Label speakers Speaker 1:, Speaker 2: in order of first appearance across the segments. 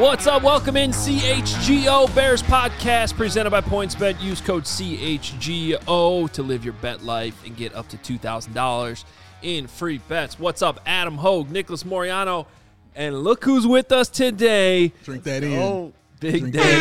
Speaker 1: What's up? Welcome in CHGO Bears Podcast presented by PointsBet. Use code CHGO to live your bet life and get up to $2,000 in free bets. What's up? Adam Hogue, Nicholas Moriano, and look who's with us today.
Speaker 2: Drink that in.
Speaker 1: Oh, Big
Speaker 2: Drink
Speaker 1: Dave.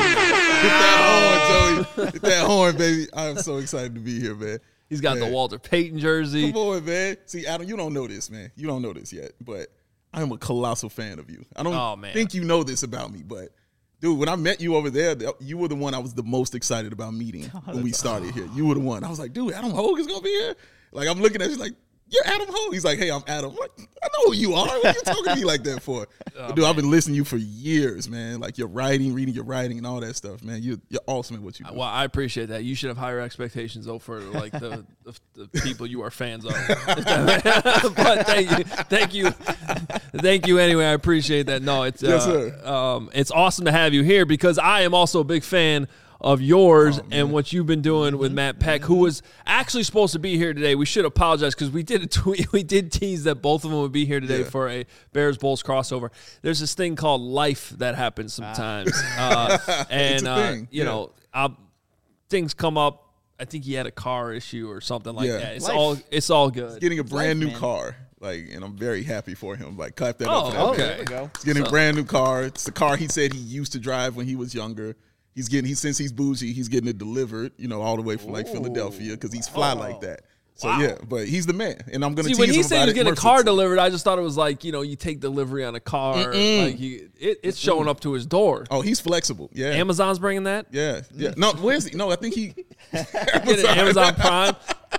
Speaker 2: that in. Hit that horn, Joey. Hit that horn, baby. I am so excited to be here, man.
Speaker 1: He's got the Walter Payton jersey.
Speaker 2: Come on, man. See, Adam, you don't know this, man. You don't know this yet, but I am a colossal fan of you. I don't think you know this about me, but dude, when I met you over there, you were the one I was the most excited about meeting when we started here. You were the one. I was like, dude, Adam Hogue is going to be here? Like, I'm looking at you like, you're Adam Hogue. He's like, hey, I'm Adam. I'm like, I know who you are. What are you talking to me like that for? But dude, I've been listening to you for years, man. Like your writing, reading your writing and all that stuff, man. You're awesome at what you do.
Speaker 1: Well, I appreciate that. You should have higher expectations, though, for like the people you are fans of. But thank you anyway. I appreciate that. No, it's
Speaker 2: yes, sir.
Speaker 1: It's awesome to have you here because I am also a big fan of yours and what you've been doing with Matt Peck, who was actually supposed to be here today. We should apologize because we did a tweet. We did tease that both of them would be here today for a Bears Bulls crossover. There's this thing called life that happens sometimes, and you know, things come up. I think he had a car issue or something like that. It's all good.
Speaker 2: He's getting a brand new car. Like, and I'm very happy for him. Like, clap that up for that.
Speaker 1: Okay.
Speaker 2: There we go. He's getting a brand new car. It's the car he said he used to drive when he was younger. Since he's bougie, he's getting it delivered, you know, all the way from like Philadelphia because he's fly like that. So yeah, but he's the man, and I'm gonna tease him about it.
Speaker 1: When he said he was getting a car delivered, I just thought it was like, you know, you take delivery on a car, like it's showing up to his door.
Speaker 2: Oh, he's flexible. Yeah,
Speaker 1: Amazon's bringing that.
Speaker 2: Yeah. No, where's he? No, I think he
Speaker 1: Amazon Prime.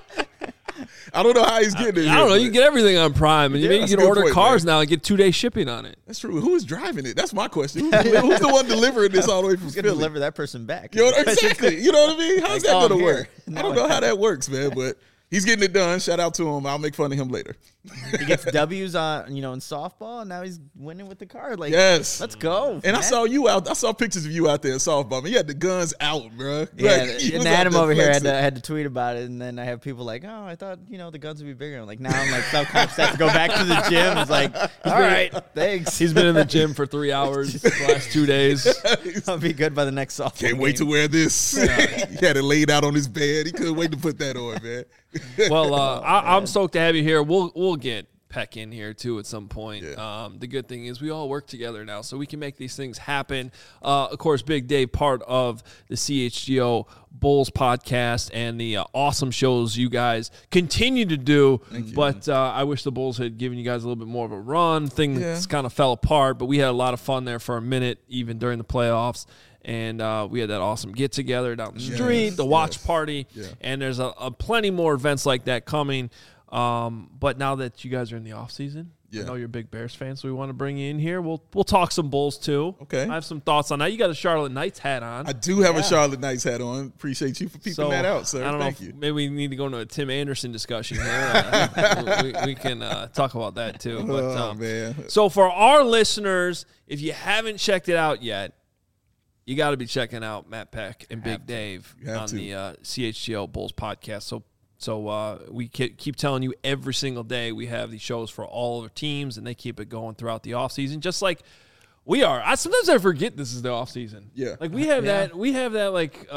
Speaker 2: I don't know how he's getting it.
Speaker 1: I don't know. You can get everything on Prime, and you can order cars now and get 2-day shipping on it.
Speaker 2: That's true. Who is driving it? That's my question. Who's the one delivering this all the way from Philly?
Speaker 3: Deliver that person back.
Speaker 2: You know, exactly. You know what I mean? How's that going to work? I don't know how that works, man, but he's getting it done. Shout out to him. I'll make fun of him later.
Speaker 3: He gets W's on, in softball, and now he's winning with the car. Like,
Speaker 2: yes,
Speaker 3: let's go.
Speaker 2: And man. I saw you out. I saw pictures of you out there in softball. Man, you had the guns out, bro.
Speaker 3: Yeah, and Adam over here had to tweet about it, and then I have people like, "Oh, I thought the guns would be bigger." I'm like, now I'm like self-conscious. I have to go back to the gym. It's like, all right, thanks.
Speaker 1: He's been in the gym for 3 hours the last 2 days.
Speaker 3: I'll be good by the next softball.
Speaker 2: Can't wait to wear this. He had it laid out on his bed. He couldn't wait to put that on, man.
Speaker 1: Well, I'm stoked to have you here. We'll get Peck in here too at some point. Yeah. The good thing is we all work together now, so we can make these things happen. Of course, Big Dave, part of the CHGO Bulls podcast and the awesome shows you guys continue to do. But I wish the Bulls had given you guys a little bit more of a run. Things kind of fell apart, but we had a lot of fun there for a minute, even during the playoffs. And we had that awesome get-together down the street, the watch party, and there's a plenty more events like that coming. But now that you guys are in the off season, I know you're a big Bears fan, so we want to bring you in here. We'll talk some Bulls too.
Speaker 2: Okay,
Speaker 1: I have some thoughts on that. You got a Charlotte Knights hat on.
Speaker 2: I do have a Charlotte Knights hat on. Appreciate you for peeping that out, sir.
Speaker 1: I don't
Speaker 2: Thank
Speaker 1: know.
Speaker 2: you.
Speaker 1: Maybe we need to go into a Tim Anderson discussion here. we can talk about that too. But,
Speaker 2: man.
Speaker 1: So for our listeners, if you haven't checked it out yet, you got to be checking out Matt Peck and Big Dave on the CHGO Bulls podcast. So we keep telling you every single day we have these shows for all of our teams, and they keep it going throughout the offseason, just like we are. Sometimes I forget this is the offseason.
Speaker 2: Yeah.
Speaker 1: Like we have that like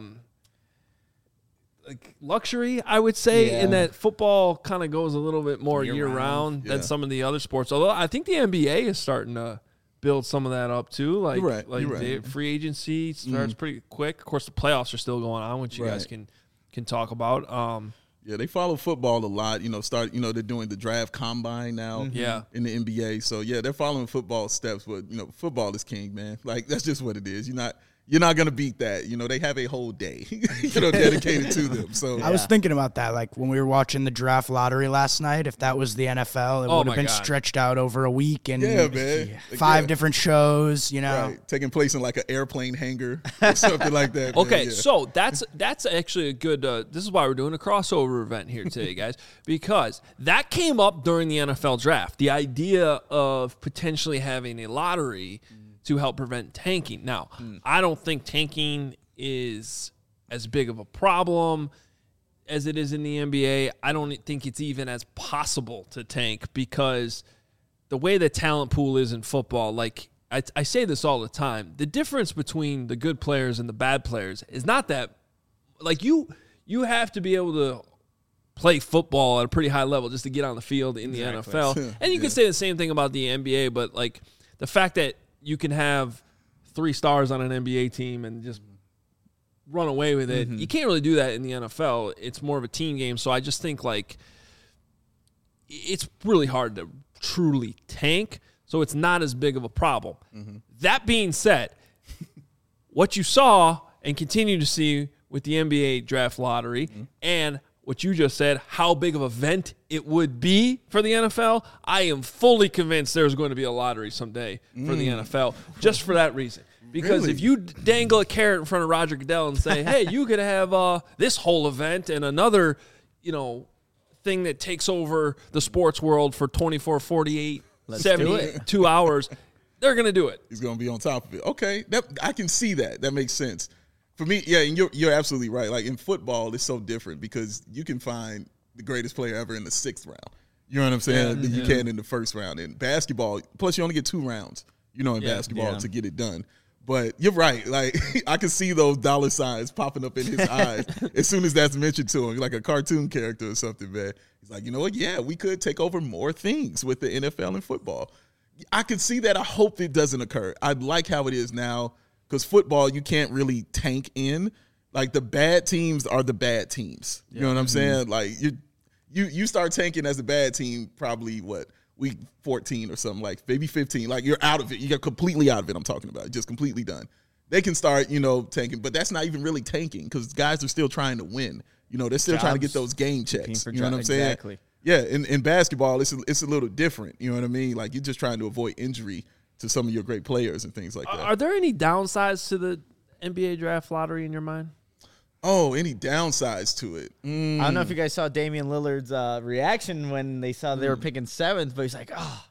Speaker 1: luxury, I would say, in that football kind of goes a little bit more year-round than some of the other sports. Although I think the NBA is starting to build some of that up too. Like, the free agency starts pretty quick. Of course, the playoffs are still going on, which you guys can talk about.
Speaker 2: They follow football a lot. They're doing the draft combine now. In the NBA. So they're following football steps. But football is king, man. Like that's just what it is. You're not going to beat that. They have a whole day, dedicated to them. So
Speaker 4: I was thinking about that, like when we were watching the draft lottery last night. If that was the NFL, it would have been stretched out over a week and 5 different shows.
Speaker 2: Taking place in like an airplane hangar or something like that.
Speaker 1: Okay, so that's actually a good. This is why we're doing a crossover event here today, guys, because that came up during the NFL draft. The idea of potentially having a lottery to help prevent tanking. Now, I don't think tanking is as big of a problem as it is in the NBA. I don't think it's even as possible to tank because the way the talent pool is in football, like I say this all the time. The difference between the good players and the bad players is not that, like, you have to be able to play football at a pretty high level just to get on the field in the NFL. And you can say the same thing about the NBA, but, like, the fact that you can have 3 stars on an NBA team and just run away with it, you can't really do that in the NFL. It's more of a team game. So I just think, like, it's really hard to truly tank. So it's not as big of a problem. That being said, what you saw and continue to see with the NBA draft lottery and what you just said, how big of an event it would be for the NFL, I am fully convinced there's going to be a lottery someday for the NFL just for that reason. Because if you dangle a carrot in front of Roger Goodell and say, hey, you could have this whole event and another, thing that takes over the sports world for 24, 48, 72 hours, they're going to do it.
Speaker 2: He's going to be on top of it. Okay, I can see that. That makes sense. For me, yeah, and you're absolutely right. Like, in football, it's so different because you can find the greatest player ever in the 6th round. You know what I'm saying? You can in the 1st round. In basketball, plus you only get 2 rounds, in basketball to get it done. But you're right. Like, I can see those dollar signs popping up in his eyes as soon as that's mentioned to him, like a cartoon character or something, man. He's like, you know what? Yeah, we could take over more things with the NFL and football. I can see that. I hope it doesn't occur. I like how it is now because football, you can't really tank in. Like, the bad teams are the bad teams. You know what I'm saying? Like, you start tanking as a bad team probably, week 14 or something, like maybe 15. Like, you're out of it. You got completely out of it, I'm talking about. Just completely done. They can start, tanking, but that's not even really tanking because guys are still trying to win. They're still trying to get those game checks. You know what I'm saying?
Speaker 3: Exactly.
Speaker 2: Yeah, in basketball, it's a little different. You know what I mean? Like, you're just trying to avoid injury to some of your great players and things like that.
Speaker 1: Are there any downsides to the NBA draft lottery in your mind?
Speaker 2: Oh, any downsides to it?
Speaker 3: I don't know if you guys saw Damian Lillard's reaction when they saw they were picking 7th, but he's like,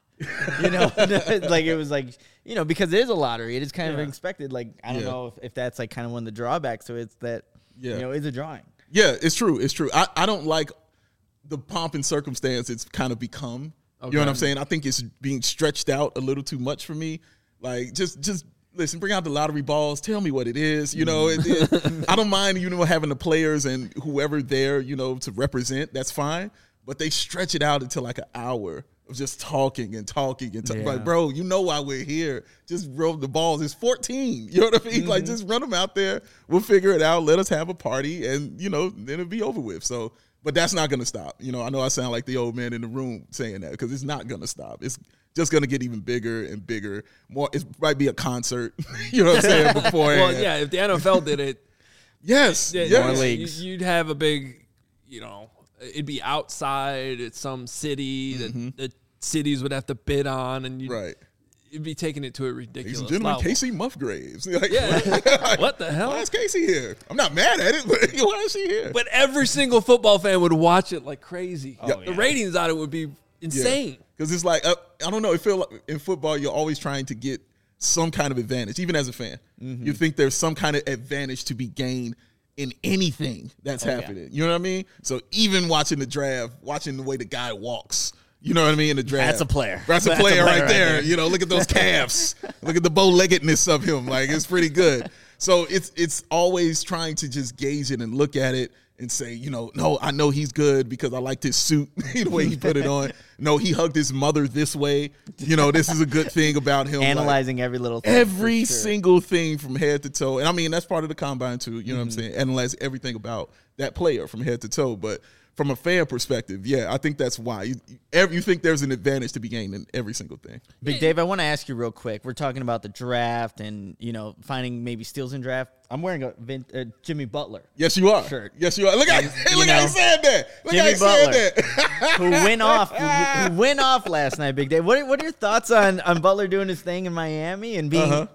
Speaker 3: like, it was like, because it is a lottery. It is kind of expected. Like, I don't know if that's like kind of one of the drawbacks. So it's that, it's a drawing.
Speaker 2: Yeah, it's true. It's true. I don't like the pomp and circumstance it's kind of become. Okay. You know what I'm saying? I think it's being stretched out a little too much for me. Like, just listen, bring out the lottery balls. Tell me what it is. I don't mind, having the players and whoever there, to represent. That's fine. But they stretch it out until like an hour of just talking and talking and talking. Like, bro, you know why we're here. Just roll the balls. It's 14. You know what I mean? Like, just run them out there. We'll figure it out. Let us have a party and, then it'll be over with. So, but that's not going to stop. I know I sound like the old man in the room saying that because it's not going to stop. It's just going to get even bigger and bigger. More, it might be a concert, you know what I'm saying, beforehand.
Speaker 1: Well, yeah, if the NFL did it,
Speaker 2: more
Speaker 3: leagues.
Speaker 1: You'd have a big, it'd be outside at some city that the cities would have to bid on, and you'd be taking it to a ridiculous
Speaker 2: level. Ladies and gentlemen, Casey Musgraves. Like,
Speaker 1: what the hell?
Speaker 2: Why is Casey here? I'm not mad at it, but why is she here?
Speaker 1: But every single football fan would watch it like crazy. The ratings on it would be insane.
Speaker 2: Because it's like, I don't know, it feels like in football you're always trying to get some kind of advantage, even as a fan. You think there's some kind of advantage to be gained in anything that's happening. You know what I mean? So even watching the draft, watching the way the guy walks, you know what I mean, in the draft.
Speaker 3: That's a player.
Speaker 2: That's a player right there. Look at those calves. Look at the bow-leggedness of him. Like, it's pretty good. So it's always trying to just gauge it and look at it and say, no, I know he's good because I liked his suit, the way he put it on. No, he hugged his mother this way. This is a good thing about him.
Speaker 3: Analyzing every little thing.
Speaker 2: Every single thing from head to toe. And I mean, that's part of the combine too. You know what I'm saying? Analyze everything about that player from head to toe. But from a fan perspective, I think that's why. You think there's an advantage to be gained in every single thing.
Speaker 3: Big Dave, I want to ask you real quick. We're talking about the draft and, finding maybe steals in draft. I'm wearing a Jimmy Butler.
Speaker 2: Yes, you are.
Speaker 3: Shirt.
Speaker 2: Yes, you are. Look how he said that.
Speaker 3: Jimmy Butler, who went off last night, Big Dave. What are your thoughts on Butler doing his thing in Miami and being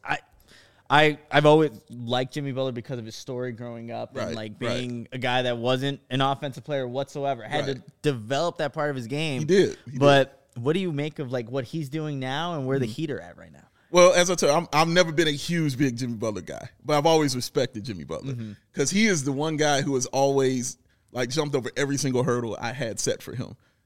Speaker 3: I've always liked Jimmy Butler because of his story growing up and being a guy that wasn't an offensive player whatsoever. Had to develop that part of his game.
Speaker 2: He did.
Speaker 3: What do you make of what he's doing now and where the Heat are at right now?
Speaker 2: Well, as I tell you, I've never been a huge, big Jimmy Butler guy, but I've always respected Jimmy Butler because he is the one guy who has always jumped over every single hurdle I had set for him.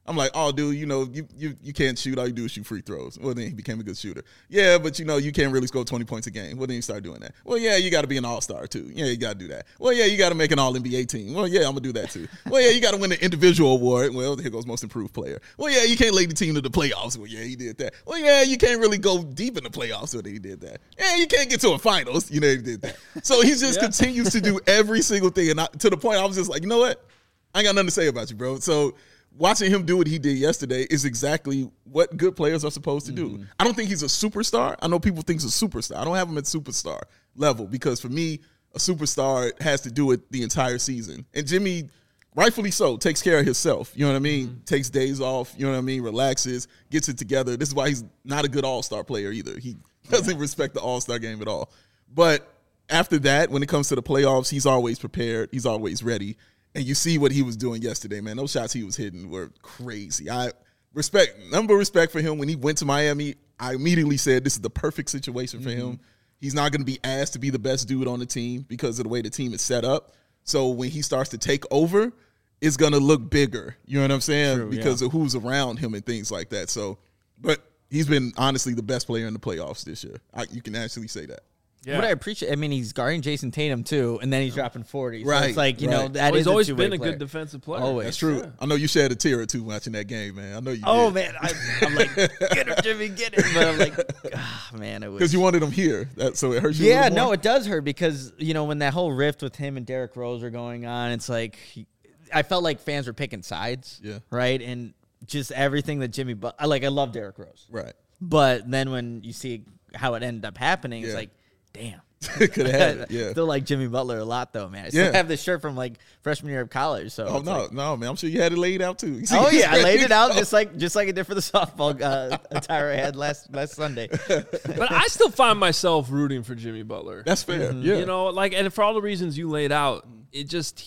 Speaker 2: I'm like, oh, dude, you can't shoot. All you do is shoot free throws. Well, then he became a good shooter. Yeah, but, you can't really score 20 points a game. Well, then you start doing that. Well, yeah, you got to be an all-star, too. Yeah, you got to do that. Well, yeah, you got to make an all-NBA team. Well, yeah, I'm going to do that, too. Well, yeah, you got to win the individual award. Well, here goes most improved player. Well, yeah, you can't lead the team to the playoffs. Well, yeah, he did that. Well, yeah, you can't really go deep in the playoffs. Well, he did that. Yeah, you can't get to a finals. He did that. So he just continues to do every single thing. And to the point I was just like, you know what? I ain't got nothing to say about you, bro. So watching him do what he did yesterday is exactly what good players are supposed to do. I don't think he's a superstar. I know people think he's a superstar. I don't have him at superstar level because for me, a superstar has to do it the entire season. And Jimmy, rightfully so, takes care of himself. You know what I mean? Takes days off, you know what I mean? Relaxes, gets it together. This is why he's not a good all-star player either. He doesn't respect the all-star game at all. But after that, when it comes to the playoffs, he's always prepared. He's always ready. And you see what he was doing yesterday, man. Those shots he was hitting were crazy. I number of respect for him. When he went to Miami, I immediately said this is the perfect situation for him. He's not going to be asked to be the best dude on the team because of the way the team is set up. So when he starts to take over, it's going to look bigger. You know what I'm saying?
Speaker 3: True,
Speaker 2: because of who's around him and things like that. So, but he's been honestly the best player in the playoffs this year. You can actually say that.
Speaker 3: Yeah. What I appreciate, he's guarding Jason Tatum too, and then he's dropping 40. So
Speaker 2: right.
Speaker 3: It's like, that
Speaker 1: he's
Speaker 3: is
Speaker 1: always
Speaker 3: been
Speaker 1: a good defensive player.
Speaker 3: Always.
Speaker 2: That's true. Yeah. I know you shed a tear or two watching that game, man. I know you
Speaker 3: did.
Speaker 2: Man.
Speaker 3: I'm like, get it, Jimmy, get it. But I'm like, man, it was.
Speaker 2: Because you wanted him here. So it hurts you
Speaker 3: Yeah, no, it does hurt because, when that whole rift with him and Derrick Rose are going on, it's like, I felt like fans were picking sides.
Speaker 2: Yeah.
Speaker 3: Right? And just everything that Jimmy, I love Derrick Rose.
Speaker 2: Right.
Speaker 3: But then when you see how it ended up happening, it's like, damn.
Speaker 2: Could have had it, yeah.
Speaker 3: Still like Jimmy Butler a lot, though, man. I still have this shirt from freshman year of college. So
Speaker 2: no, man. I'm sure you had it laid out too.
Speaker 3: I laid it out just like I did for the softball attire I had last Sunday.
Speaker 1: But I still find myself rooting for Jimmy Butler.
Speaker 2: That's fair. Yeah,
Speaker 1: and for all the reasons you laid out, it just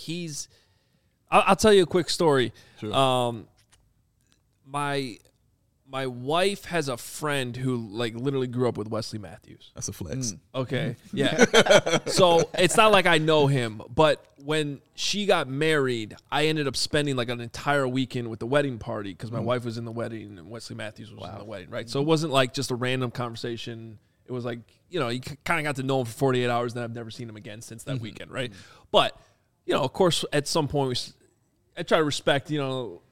Speaker 1: I'll tell you a quick story.
Speaker 2: Sure.
Speaker 1: My wife has a friend who literally grew up with Wesley Matthews.
Speaker 2: That's a flex.
Speaker 1: Okay. Yeah. So it's not like I know him, but when she got married, I ended up spending an entire weekend with the wedding party because my wife was in the wedding and Wesley Matthews was in the wedding, right? So it wasn't just a random conversation. It was you kind of got to know him for 48 hours, and I've never seen him again since that weekend, right? But, of course, at some point, I try to respect, we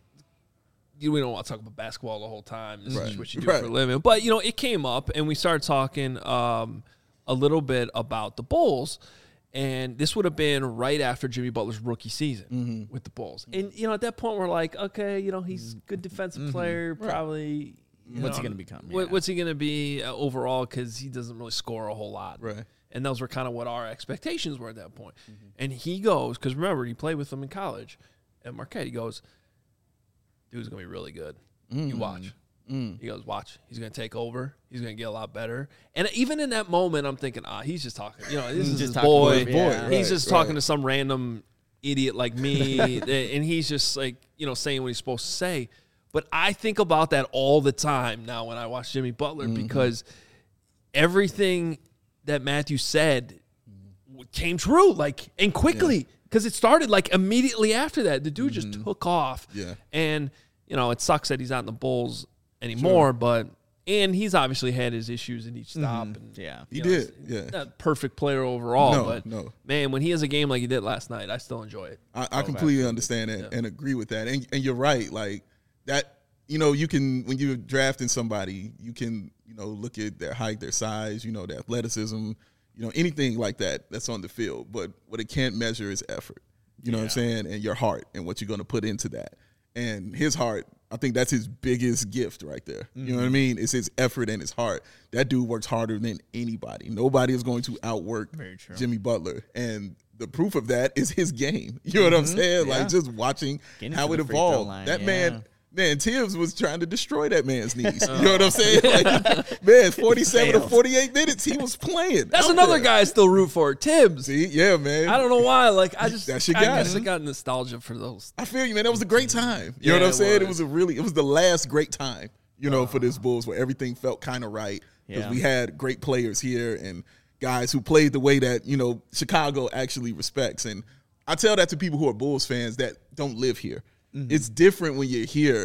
Speaker 1: don't want to talk about basketball the whole time. This is what you do for a living. But, it came up, and we started talking a little bit about the Bulls. And this would have been right after Jimmy Butler's rookie season with the Bulls. And, at that point, we're like, okay, he's a good defensive player, probably.
Speaker 3: What's he going to become?
Speaker 1: What's he going to be overall? Because he doesn't really score a whole lot.
Speaker 2: Right.
Speaker 1: And those were kind of what our expectations were at that point. And he goes, because remember, he played with them in college at Marquette. He goes, dude's going to be really good. You watch. He goes, watch. He's going to take over. He's going to get a lot better. And even in that moment, I'm thinking, he's just talking. This is his boy. He's just talking to some random idiot like me. And he's just saying what he's supposed to say. But I think about that all the time now when I watch Jimmy Butler because everything that Matthew said came true, and quickly. Because it started immediately after that. The dude just took off.
Speaker 2: Yeah.
Speaker 1: And, it sucks that he's not in the Bulls anymore, and he's obviously had his issues in each stop. And,
Speaker 2: he did. Yeah.
Speaker 1: Not a perfect player overall, man, when he has a game like he did last night, I still enjoy it.
Speaker 2: I completely understand it and agree with that. And you're right. That, you can, when you're drafting somebody, you can, look at their height, their size, their athleticism, anything like that that's on the field. But what it can't measure is effort. You know what I'm saying? And your heart and what you're going to put into that. And his heart, I think that's his biggest gift right there. You know what I mean? It's his effort and his heart. That dude works harder than anybody. Nobody is going to outwork Jimmy Butler. And the proof of that is his game. You know what I'm saying?
Speaker 3: Yeah.
Speaker 2: Just watching how it evolved. That man, Tibbs was trying to destroy that man's knees. You know what I'm saying? 47 to 48 minutes, he was playing.
Speaker 1: That's another guy I still root for, Tibbs.
Speaker 2: See, yeah, man.
Speaker 1: I don't know why. That's your guy. I guess I got nostalgia for those.
Speaker 2: I feel you, man. That was a great time. You know what I'm saying? It was the last great time, for this Bulls where everything felt kind of right because we had great players here and guys who played the way that, Chicago actually respects. And I tell that to people who are Bulls fans that don't live here. It's different when you're here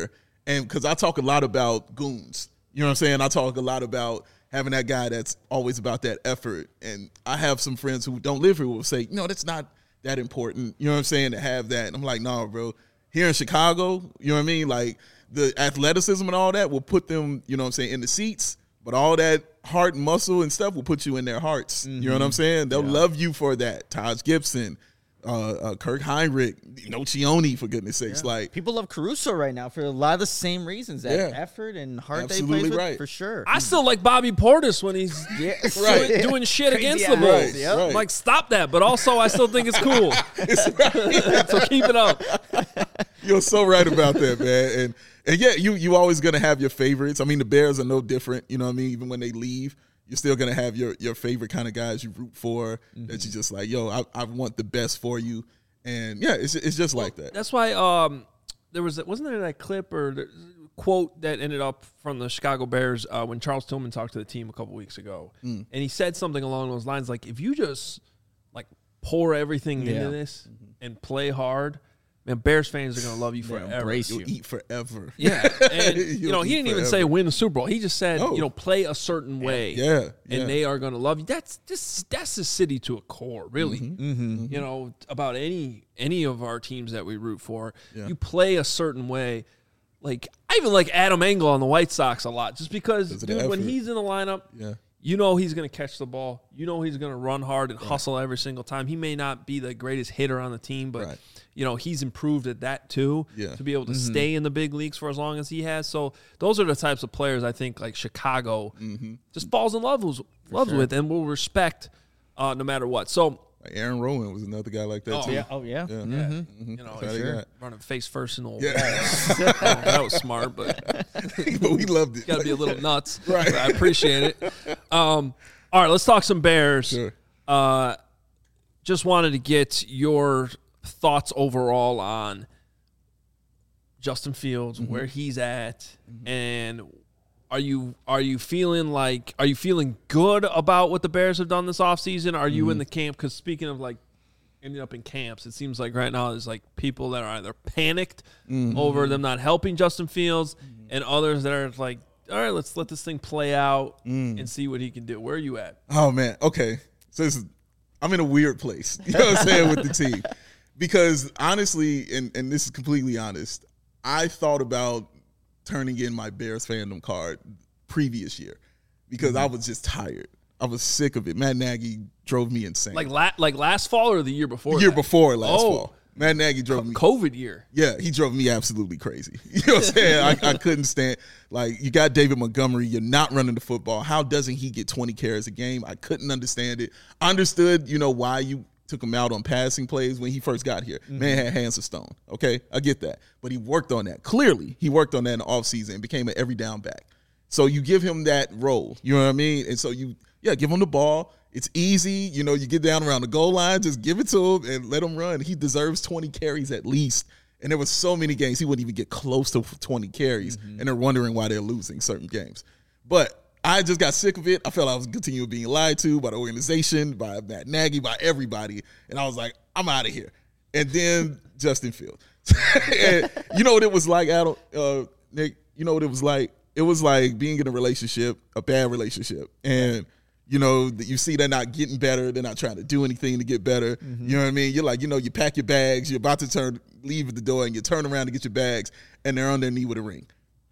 Speaker 2: And because I talk a lot about goons, you know what I'm saying? I talk a lot about having that guy that's always about that effort. And I have some friends who don't live here who will say, no, that's not that important, you know what I'm saying, to have that. And I'm like, no, bro. Here in Chicago, you know what I mean? Like, the athleticism and all that will put them, you know what I'm saying, in the seats. But all that heart and muscle and stuff will put you in their hearts. Mm-hmm. You know what I'm saying? They'll love you for that. Taj Gibson, Kirk Hinrich, Nocioni, for goodness sakes. Like,
Speaker 3: people love Caruso right now for a lot of the same reasons. That effort and heart that he plays with, for sure.
Speaker 1: I still like Bobby Portis when he's doing shit against the Bulls. Right. I'm like, stop that. But also, I still think it's cool. So keep it up.
Speaker 2: You're so right about that, man. And yeah, you always going to have your favorites. I mean, the Bears are no different. You know what I mean? Even when they leave, you're still going to have your favorite kind of guys you root for, that you just like, yo, I want the best for you. And yeah, it's just like that.
Speaker 1: That's why wasn't there that clip or quote that ended up from the Chicago Bears when Charles Tillman talked to the team a couple weeks ago. And he said something along those lines like, if you just like pour everything into this and play hard, man, Bears fans are going to love you forever.
Speaker 2: You'll eat forever.
Speaker 1: Yeah. And, he didn't even say win the Super Bowl. He just said, play a certain way.
Speaker 2: Yeah.
Speaker 1: And they are going to love you. That's the city to a core, really. You know, about any of our teams that we root for, you play a certain way. Like, I even like Adam Engel on the White Sox a lot, just because, dude, when he's in the lineup, you know he's going to catch the ball. You know he's going to run hard and hustle every single time. He may not be the greatest hitter on the team, but he's improved at that too, to be able to stay in the big leagues for as long as he has. So those are the types of players I think like Chicago just falls in love with and will respect no matter what. So
Speaker 2: Aaron Rowan was another guy like that too.
Speaker 1: Running face first in the wall. That was smart, but
Speaker 2: we loved it.
Speaker 1: Got to be a little nuts. Right. I appreciate it. All right, let's talk some Bears.
Speaker 2: Sure.
Speaker 1: Just wanted to get your thoughts overall on Justin Fields, where he's at, and are you feeling good about what the Bears have done this offseason? Are you in the camp? Because speaking of like ending up in camps, it seems like right now there's like people that are either panicked over them not helping Justin Fields, and others that are like, all right, let's let this thing play out and see what he can do. Where are you at?
Speaker 2: Oh man, okay. So I'm in a weird place. You know what I'm saying, with the team. Because honestly, and this is completely honest, I thought about turning in my Bears fandom card previous year because I was just tired. I was sick of it. Matt Nagy drove me insane.
Speaker 1: Like last fall or the year before?
Speaker 2: Before last fall. Matt Nagy drove me.
Speaker 1: COVID year.
Speaker 2: Yeah, he drove me absolutely crazy. You know what I'm saying? I couldn't stand. Like, you got David Montgomery. You're not running the football. How doesn't he get 20 carries a game? I couldn't understand it. I understood, why you took him out on passing plays when he first got here. Man had hands of stone. Okay, I get that. But he worked on that. Clearly, he worked on that in the offseason and became an every down back. So you give him that role. You know what I mean? And so give him the ball. It's easy. You get down around the goal line, just give it to him and let him run. He deserves 20 carries at least. And there were so many games he wouldn't even get close to 20 carries, and they're wondering why they're losing certain games. But I just got sick of it. I felt I was continuing being lied to by the organization, by Matt Nagy, by everybody. And I was like, I'm out of here. And then Justin Fields. And you know what it was like, Adam, Nick? You know what it was like? It was like being in a relationship, a bad relationship. And you see they're not getting better. They're not trying to do anything to get better. You know what I mean? You're like, you pack your bags. You're about to leave at the door, and you turn around to get your bags, and they're on their knee with a ring.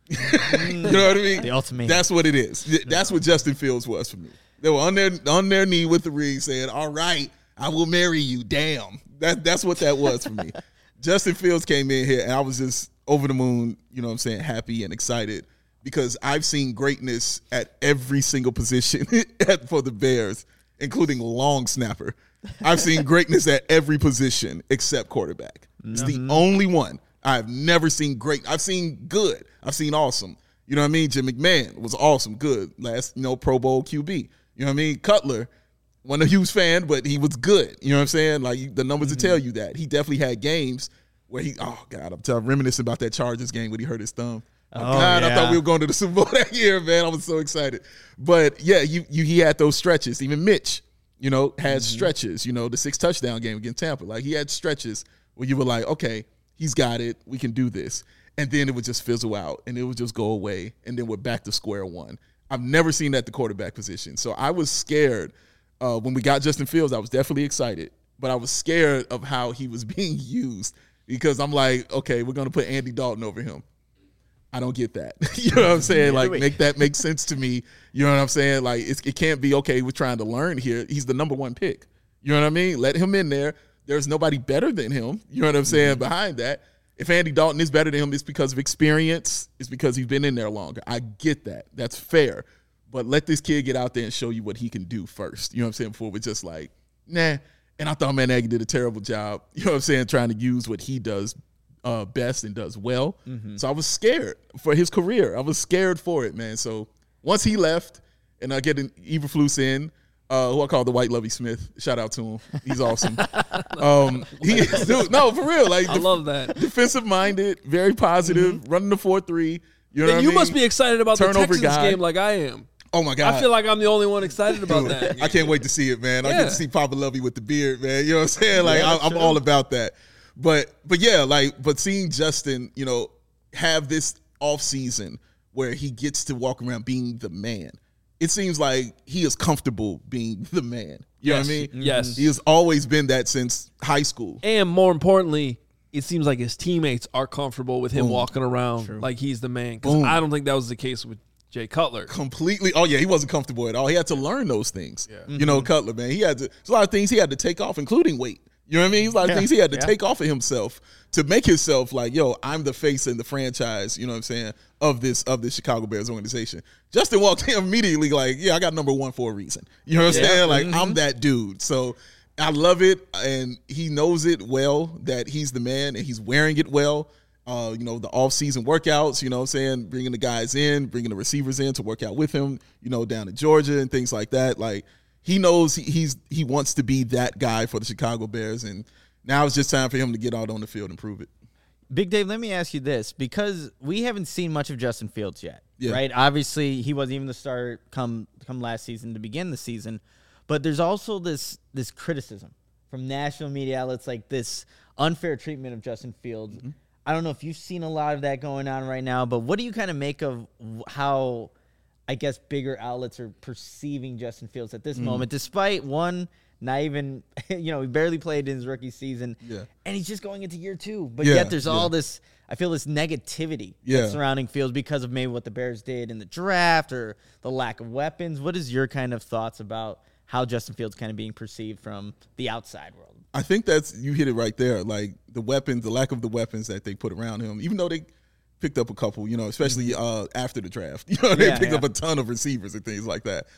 Speaker 2: You know what I mean?
Speaker 3: The ultimate.
Speaker 2: That's what it is. That's what Justin Fields was for me. They were on their knee with the ring saying, all right, I will marry you. Damn. That's what that was for me. Justin Fields came in here, and I was just over the moon, happy and excited, because I've seen greatness at every single position for the Bears, including long snapper. I've seen greatness at every position except quarterback. It's the only one. I've never seen great. I've seen good. I've seen awesome. You know what I mean? Jim McMahon was awesome, good. Last, Pro Bowl QB. You know what I mean? Cutler, wasn't a huge fan, but he was good. You know what I'm saying? Like, the numbers will tell you that. He definitely had games where I'm reminiscing about that Chargers game when he hurt his thumb. I thought we were going to the Super Bowl that year, man. I was so excited. But, yeah, he had those stretches. Even Mitch, had stretches. The 6 touchdown game against Tampa. Like, he had stretches where you were like, okay, he's got it. We can do this. and then it would just fizzle out, and it would just go away, and then we're back to square one. I've never seen that at the quarterback position. So I was scared when we got Justin Fields. I was definitely excited, but I was scared of how he was being used because I'm like, okay, we're going to put Andy Dalton over him. I don't get that. You know what I'm saying? Like, make that make sense to me. You know what I'm saying? Like, it can't be, okay, we're trying to learn here. He's the number one pick. You know what I mean? Let him in there. There's nobody better than him. You know what I'm saying? Behind that. If Andy Dalton is better than him, it's because of experience. It's because he's been in there longer. I get that. That's fair. But let this kid get out there and show you what he can do first. You know what I'm saying? Before we're just like, nah. And I thought Matt Nagy did a terrible job, you know what I'm saying, trying to use what he does best and does well. So I was scared for his career. I was scared for it, man. So once he left and I get an Eberflus in, who I call the White Lovey Smith. Shout out to him. He's awesome. No, for real. Like,
Speaker 1: I love that.
Speaker 2: Defensive-minded, very positive, running the 4-3. You know what I mean?
Speaker 1: You must be excited about the Texans game like I am.
Speaker 2: Oh, my God.
Speaker 1: I feel like I'm the only one excited about that.
Speaker 2: I can't wait to see it, man. I get to see Papa Lovey with the beard, man. You know what I'm saying? Like, I'm all about that. But yeah, but seeing Justin, you know, have this offseason where he gets to walk around being the man. It seems like he is comfortable being the man. You know what I mean?
Speaker 1: Yes.
Speaker 2: He has always been that since high school.
Speaker 1: And more importantly, it seems like his teammates are comfortable with him walking around like he's the man. Because I don't think that was the case with Jay Cutler.
Speaker 2: Completely. Oh, yeah, he wasn't comfortable at all. He had to learn those things. Yeah. You know, Cutler, man. There's a lot of things he had to take off, including weight. You know what I mean? There's a lot of things he had to take off of himself to make himself like, yo, I'm the face in the franchise, you know what I'm saying, of this Chicago Bears organization. Justin walked in immediately like, yeah, I got number one for a reason. You know what I'm saying? Like, I'm that dude. So I love it, and he knows it well that he's the man, and he's wearing it well. You know, the off-season workouts, you know what I'm saying, bringing the guys in, bringing the receivers in to work out with him, you know, down in Georgia and things like that. Like, he knows he wants to be that guy for the Chicago Bears, and now it's just time for him to get out on the field and prove it.
Speaker 3: Big Dave, let me ask you this, because we haven't seen much of Justin Fields yet, right? Obviously, he wasn't even the starter come last season to begin the season, but there's also this criticism from national media outlets, like this unfair treatment of Justin Fields. I don't know if you've seen a lot of that going on right now, but what do you kind of make of how, I guess, bigger outlets are perceiving Justin Fields at this moment, despite one, not even, you know, he barely played in his rookie season, and he's just going into year two. But yet there's all this, I feel this negativity surrounding Fields because of maybe what the Bears did in the draft or the lack of weapons. What is your kind of thoughts about how Justin Fields kind of being perceived from the outside world?
Speaker 2: I think you hit it right there. Like, the weapons, the lack of the weapons that they put around him, even though they picked up a couple, you know, especially after the draft. You know, they picked up a ton of receivers and things like that.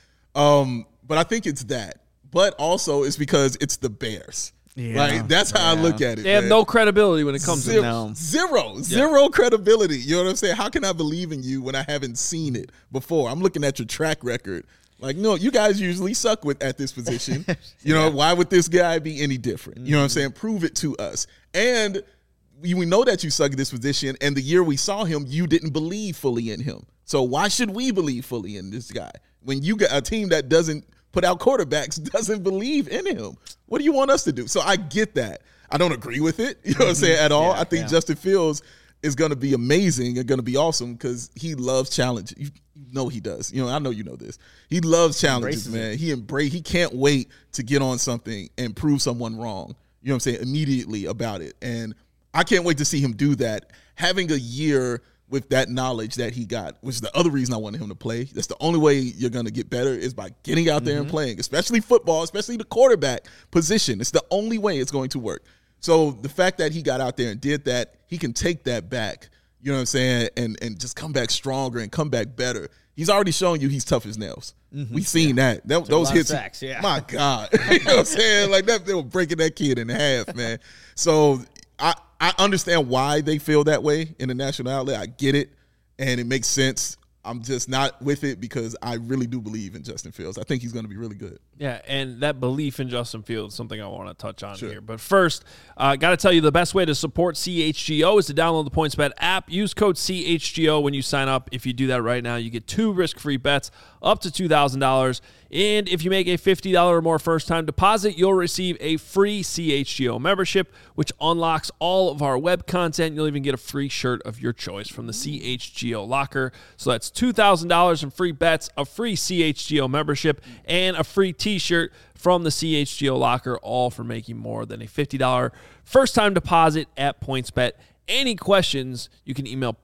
Speaker 2: But I think it's that. But also it's because it's the Bears. Yeah. Like, that's how I look at it.
Speaker 1: They have no credibility when it comes to them.
Speaker 2: Zero credibility. You know what I'm saying? How can I believe in you when I haven't seen it before? I'm looking at your track record. Like, no, you guys usually suck at this position. You know, why would this guy be any different? You know what I'm saying? Prove it to us. And we know that you suck at this position, and the year we saw him, you didn't believe fully in him. So why should we believe fully in this guy? When you got a team that doesn't put out quarterbacks, doesn't believe in him, what do you want us to do? So I get that. I don't agree with it, you know what I'm saying, at all. I think Justin Fields is going to be amazing and going to be awesome because he loves challenges. You know he does. You know, I know you know this. He loves challenges, man. He can't wait to get on something and prove someone wrong, you know what I'm saying, immediately about it. And I can't wait to see him do that. Having a year with that knowledge that he got, which is the other reason I wanted him to play. That's the only way you're going to get better is by getting out there and playing, especially football, especially the quarterback position. It's the only way it's going to work. So the fact that he got out there and did that, he can take that back, you know what I'm saying, and just come back stronger and come back better. He's already shown you he's tough as nails. We've seen that. Those hits. Sacks, my God. You know what I'm saying? Like, that, they were breaking that kid in half, man. So I understand why they feel that way in the national outlet. I get it, and it makes sense. I'm just not with it because I really do believe in Justin Fields. I think he's going to be really good.
Speaker 1: Yeah, and that belief in Justin Fields is something I want to touch on here. But first, got to tell you the best way to support CHGO is to download the PointsBet app. Use code CHGO when you sign up. If you do that right now, you get 2 risk-free bets up to $2,000. And if you make a $50 or more first-time deposit, you'll receive a free CHGO membership, which unlocks all of our web content. You'll even get a free shirt of your choice from the CHGO locker. So that's $2,000 in free bets, a free CHGO membership, and a free T-shirt from the CHGO locker, all for making more than a $50 first-time deposit at PointsBet. Any questions, you can email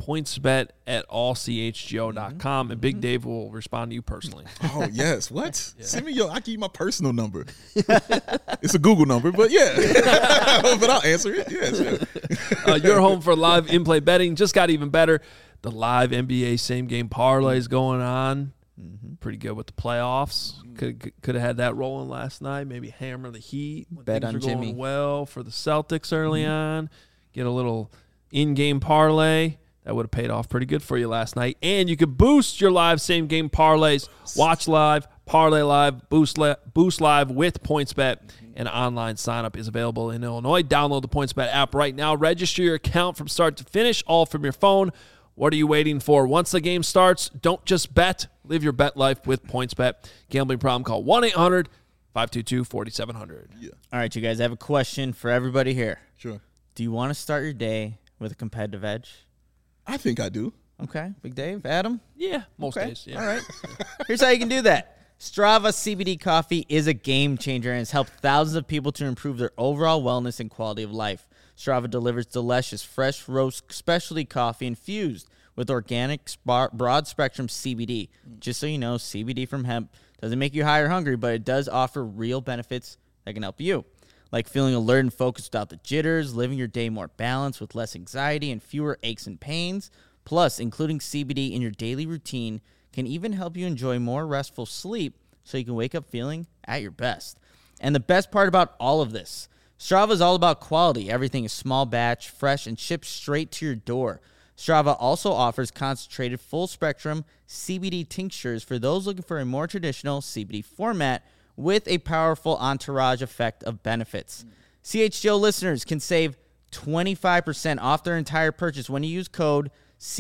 Speaker 1: pointsbet@allchgo.com, and Big Dave will respond to you personally.
Speaker 2: Oh, yes. What? Send me I give you my personal number. It's a Google number, but yeah. But I'll answer it. Yeah, sure.
Speaker 1: Your home for live in-play betting just got even better. The live NBA same-game parlays going on. Pretty good with the playoffs. Could have had that rolling last night. Maybe hammer the Heat.
Speaker 3: Bet on Jimmy.
Speaker 1: Going well for the Celtics early on. Get a little in-game parlay. That would have paid off pretty good for you last night. And you could boost your live same-game parlays. Watch live, parlay live, boost live with PointsBet. An online sign-up is available in Illinois. Download the PointsBet app right now. Register your account from start to finish, all from your phone. What are you waiting for? Once the game starts, don't just bet. Live your bet life with PointsBet. Gambling problem, call 1-800-522-4700.
Speaker 3: Yeah. All right, you guys, I have a question for everybody here.
Speaker 2: Sure.
Speaker 3: Do you want to start your day with a competitive edge?
Speaker 2: I think I do.
Speaker 3: Okay. Big Dave? Adam?
Speaker 1: Yeah, most days. Yeah.
Speaker 3: All right. Here's how you can do that. Strava CBD coffee is a game changer and has helped thousands of people to improve their overall wellness and quality of life. Strava delivers delicious, fresh roast specialty coffee infused with organic, broad-spectrum CBD. Just so you know, CBD from hemp doesn't make you high or hungry, but it does offer real benefits that can help you, like feeling alert and focused without the jitters, living your day more balanced with less anxiety and fewer aches and pains. Plus, including CBD in your daily routine can even help you enjoy more restful sleep so you can wake up feeling at your best. And the best part about all of this, Strava is all about quality. Everything is small batch, fresh, and shipped straight to your door. Strava also offers concentrated full-spectrum CBD tinctures for those looking for a more traditional CBD format with a powerful entourage effect of benefits. CHGO listeners can save 25% off their entire purchase when you use code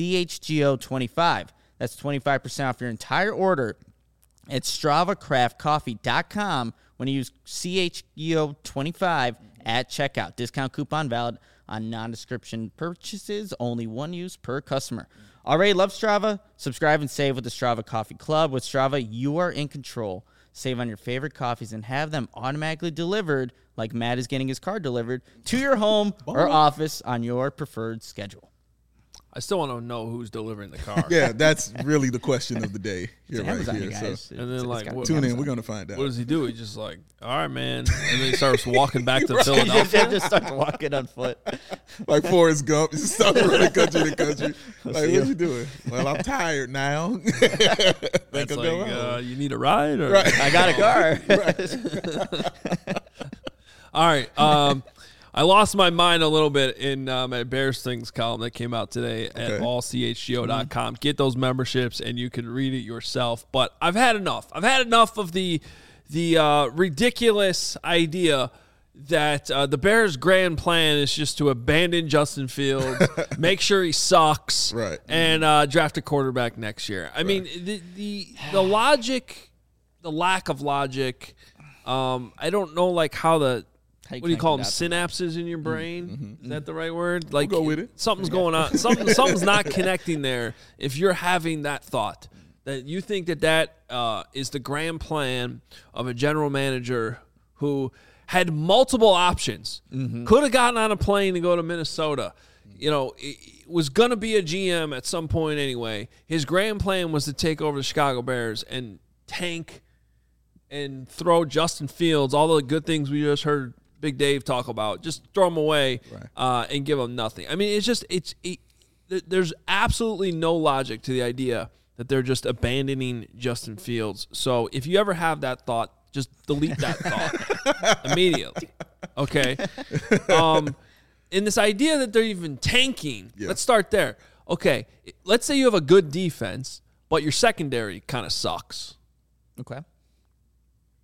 Speaker 3: CHGO25. That's 25% off your entire order at StravaCraftCoffee.com when you use CHGO25 at checkout. Discount coupon valid on non-description purchases, only one use per customer. Already love Strava? Subscribe and save with the Strava Coffee Club. With Strava, you are in control. Save on your favorite coffees and have them automatically delivered, like Matt is getting his car delivered, to your home or office on your preferred schedule.
Speaker 1: I still want to know who's delivering the car.
Speaker 2: Yeah, that's really the question of the day here, right here.
Speaker 1: So. And then,
Speaker 2: tune in. We're going to find out.
Speaker 1: What does he do? He's just like, all right, man. And then he starts walking back to Philadelphia.
Speaker 3: He just starts walking on foot.
Speaker 2: Like Forrest Gump. He starts running country to country. Like, what you doing? Well, I'm tired now.
Speaker 1: That's like, you need a ride? Or?
Speaker 3: Right. I got a car.
Speaker 1: All right. I lost my mind a little bit in my Bears Things column that came out today at allchgo.com. Get those memberships, and you can read it yourself. But I've had enough. I've had enough of the ridiculous idea that the Bears' grand plan is just to abandon Justin Fields, make sure he sucks, and draft a quarterback next year. I mean, the logic, the lack of logic, I don't know like how the – what do you call them? Synapses in your brain? Is that the right word? Like,
Speaker 2: we'll go with it.
Speaker 1: Something's going on. Something's not connecting there. If you're having that thought that you think that is the grand plan of a general manager who had multiple options, could have gotten on a plane to go to Minnesota. You know, it was going to be a GM at some point anyway. His grand plan was to take over the Chicago Bears and tank and throw Justin Fields, all the good things we just heard Big Dave talk about, just throw them away and give them nothing. I mean, there's absolutely no logic to the idea that they're just abandoning Justin Fields. So if you ever have that thought, just delete that thought immediately. Okay. In this idea that they're even tanking, let's start there. Okay. Let's say you have a good defense, but your secondary kind of sucks.
Speaker 3: Okay.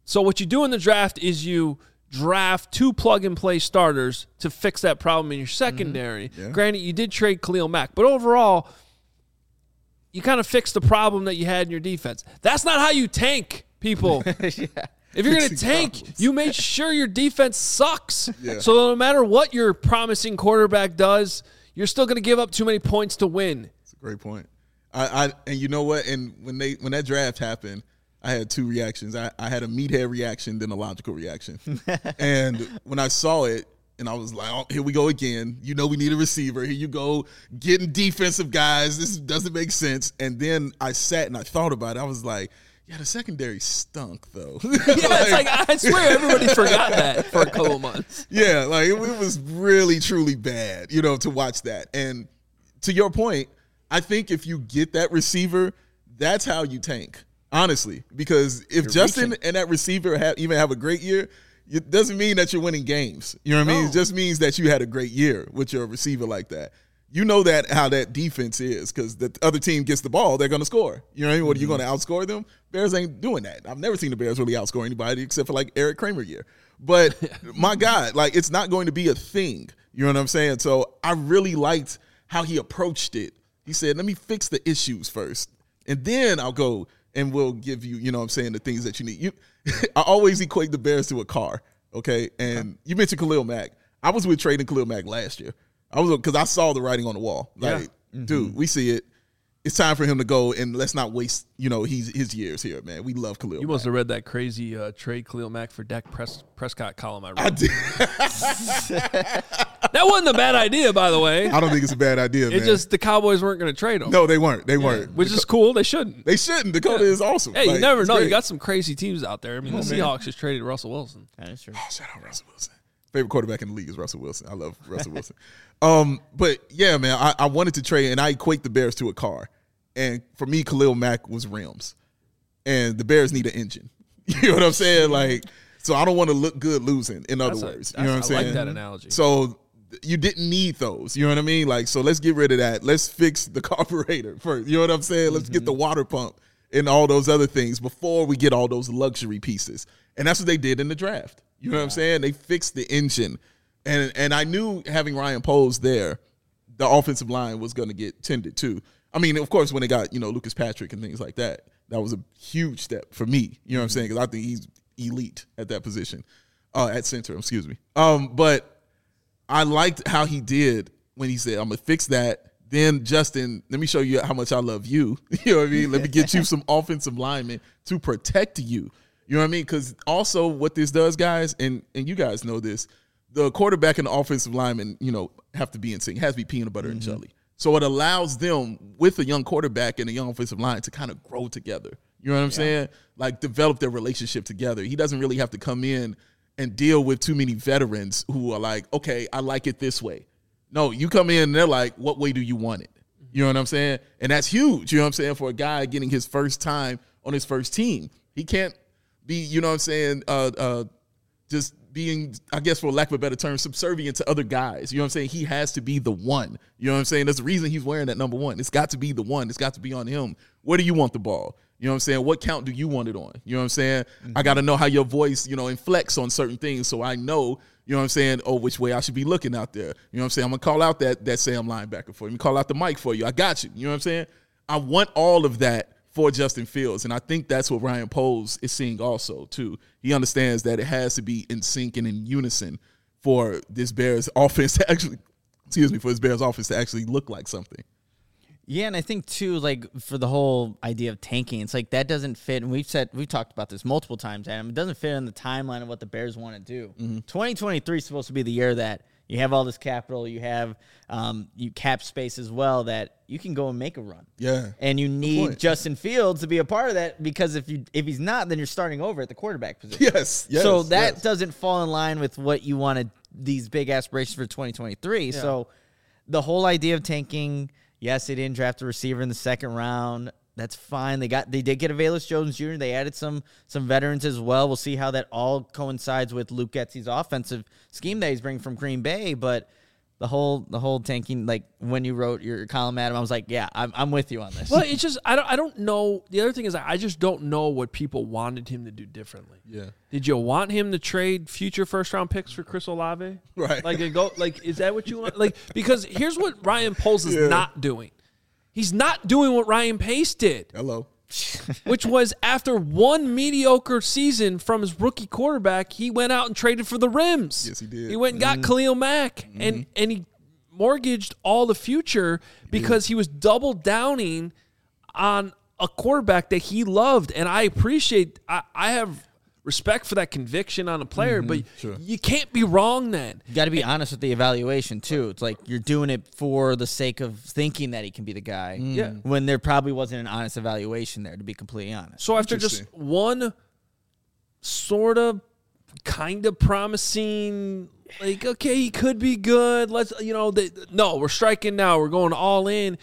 Speaker 1: So what you do in the draft is you draft 2 plug-and-play starters to fix that problem in your secondary. Mm-hmm. Yeah. Granted, you did trade Khalil Mack, but overall, you kind of fixed the problem that you had in your defense. That's not how you tank, people. Yeah. If you're going to tank, you make sure your defense sucks. Yeah. So no matter what your promising quarterback does, you're still going to give up too many points to win.
Speaker 2: That's a great point. And you know what? And when that draft happened, I had 2 reactions. I had a meathead reaction, then a logical reaction. And when I saw it, and I was like, oh, here we go again. You know we need a receiver. Here you go, getting defensive guys. This doesn't make sense. And then I sat and I thought about it. I was like, yeah, the secondary stunk, though.
Speaker 1: Yeah, it's like, I swear everybody forgot that for a couple months.
Speaker 2: Yeah, like it was really, truly bad, to watch that. And to your point, I think if you get that receiver, that's how you tank, honestly. Because if Justin and that receiver even have a great year, it doesn't mean that you're winning games. You know what I mean? It just means that you had a great year with your receiver like that. You know that how that defense is because the other team gets the ball, they're going to score. You know what I mean? What, are you going to outscore them? Bears ain't doing that. I've never seen the Bears really outscore anybody except for like Eric Kramer year. But my God, like it's not going to be a thing. You know what I'm saying? So I really liked how he approached it. He said, let me fix the issues first, and then I'll go and we'll give you, the things that you need. I always equate the Bears to a car, okay? And you mentioned Khalil Mack. I was with trading Khalil Mack last year. Because I saw the writing on the wall. Like, dude, we see it. It's time for him to go, and let's not waste, his years here, man. We love Khalil Mack.
Speaker 1: You must have read that crazy trade Khalil Mack for Dak Prescott column I read. I did. That wasn't a bad idea, by the way.
Speaker 2: I don't think it's a bad idea, man.
Speaker 1: It's just the Cowboys weren't going to trade him.
Speaker 2: No, they weren't. They weren't.
Speaker 1: Which is cool. They shouldn't.
Speaker 2: They shouldn't. Dakota is awesome.
Speaker 1: Hey, you never know. Great. You got some crazy teams out there. I mean, the Seahawks just traded Russell Wilson.
Speaker 3: That is true.
Speaker 2: Oh, shout out Russell Wilson. Favorite quarterback in the league is Russell Wilson. I love Russell Wilson. But yeah, man, I wanted to trade, and I equate the Bears to a car. And for me, Khalil Mack was rims. And the Bears need an engine. You know what I'm saying? Like, so I don't want to look good losing, in other words. You know what I'm saying?
Speaker 1: I like that analogy.
Speaker 2: So you didn't need those. You know what I mean? Like, so let's get rid of that. Let's fix the carburetor first. You know what I'm saying? Let's get the water pump and all those other things before we get all those luxury pieces. And that's what they did in the draft. You know what I'm saying? They fixed the engine. And I knew having Ryan Poles there, the offensive line was going to get tended to. I mean, of course, when they got, Lucas Patrick and things like that, that was a huge step for me. You know what I'm saying? Because I think he's elite at that position, at center, excuse me. But I liked how he did when he said, I'm going to fix that. Then, Justin, let me show you how much I love you. You know what I mean? Let me get you some offensive linemen to protect you. You know what I mean? Because also what this does, guys, and you guys know this, the quarterback and the offensive lineman, have to be in sync. It has to be peanut butter and jelly. So it allows them, with a young quarterback and a young offensive line, to kind of grow together. You know what I'm saying? Like, develop their relationship together. He doesn't really have to come in and deal with too many veterans who are like, okay, I like it this way. No, you come in and they're like, what way do you want it? You know what I'm saying? And that's huge, you know what I'm saying, for a guy getting his first time on his first team. He can't be, you know what I'm saying, just being, I guess for lack of a better term, subservient to other guys. You know what I'm saying? He has to be the one. You know what I'm saying? That's the reason he's wearing that number 1. It's got to be the one. It's got to be on him. Where do you want the ball? You know what I'm saying? What count do you want it on? You know what I'm saying? I got to know how your voice, inflects on certain things so I know, you know what I'm saying, which way I should be looking out there. You know what I'm saying? I'm going to call out that Sam linebacker for you. I'm going to call out the mic for you. I got you. You know what I'm saying? I want all of that for Justin Fields, and I think that's what Ryan Poles is seeing also, too. He understands that it has to be in sync and in unison for this Bears offense to actually, for this Bears offense to actually look like something.
Speaker 3: Yeah, and I think, too, like, for the whole idea of tanking, it's like that doesn't fit, and we've talked about this multiple times, Adam. It doesn't fit in the timeline of what the Bears want to do. 2023 is supposed to be the year that you have all this capital, you have you cap space as well, that you can go and make a run.
Speaker 2: Yeah.
Speaker 3: And you need Justin Fields to be a part of that, because if he's not, then you're starting over at the quarterback position.
Speaker 2: Yes.
Speaker 3: So that doesn't fall in line with what you wanted, these big aspirations for 2023. Yeah. So the whole idea of tanking, yes, they didn't draft a receiver in the second round. That's fine. They did get a Velus Jones Jr. They added some veterans as well. We'll see how that all coincides with Luke Getsy's offensive scheme that he's bringing from Green Bay. But the whole tanking, like when you wrote your column, Adam, I was like, yeah, I'm with you on this.
Speaker 1: Well, it's just I don't know. The other thing is I just don't know what people wanted him to do differently.
Speaker 2: Yeah.
Speaker 1: Did you want him to trade future first round picks for Chris Olave?
Speaker 2: Right.
Speaker 1: Is that what you want? Like, because here's what Ryan Poles is not doing. He's not doing what Ryan Pace did.
Speaker 2: Hello.
Speaker 1: Which was after one mediocre season from his rookie quarterback, he went out and traded for the rims.
Speaker 2: Yes, he did.
Speaker 1: He went and got Khalil Mack, and he mortgaged all the future because he was double downing on a quarterback that he loved. And I appreciate, I have respect for that conviction on a player, but you can't be wrong then.
Speaker 3: You got to be honest with the evaluation, too. It's like you're doing it for the sake of thinking that he can be the guy when there probably wasn't an honest evaluation there, to be completely honest.
Speaker 1: So after just one sort of kind of promising, like, okay, he could be good. Let's, no, we're striking now. We're going all in.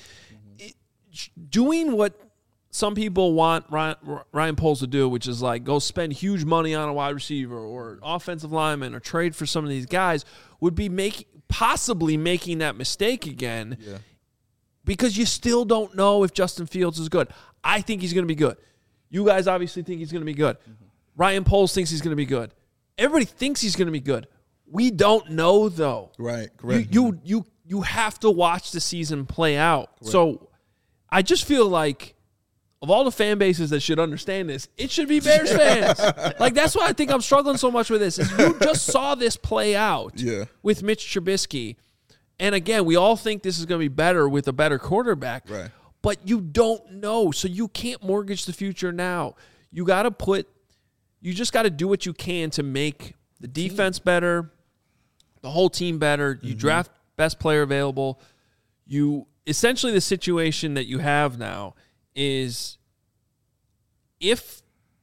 Speaker 1: Doing what some people want Ryan Poles to do, which is like go spend huge money on a wide receiver or offensive lineman or trade for some of these guys, would be possibly making that mistake again because you still don't know if Justin Fields is good. I think he's going to be good. You guys obviously think he's going to be good. Ryan Poles thinks he's going to be good. Everybody thinks he's going to be good. We don't know, though.
Speaker 2: Right, correct.
Speaker 1: You have to watch the season play out. Correct. So I just feel like of all the fan bases that should understand this, it should be Bears fans. Like, that's why I think I'm struggling so much with this. Is you just saw this play out with Mitch Trubisky. And, again, we all think this is going to be better with a better quarterback.
Speaker 2: Right.
Speaker 1: But you don't know, so you can't mortgage the future now. You just got to do what you can to make the defense better, the whole team better. You draft best player available. Essentially the situation that you have now is if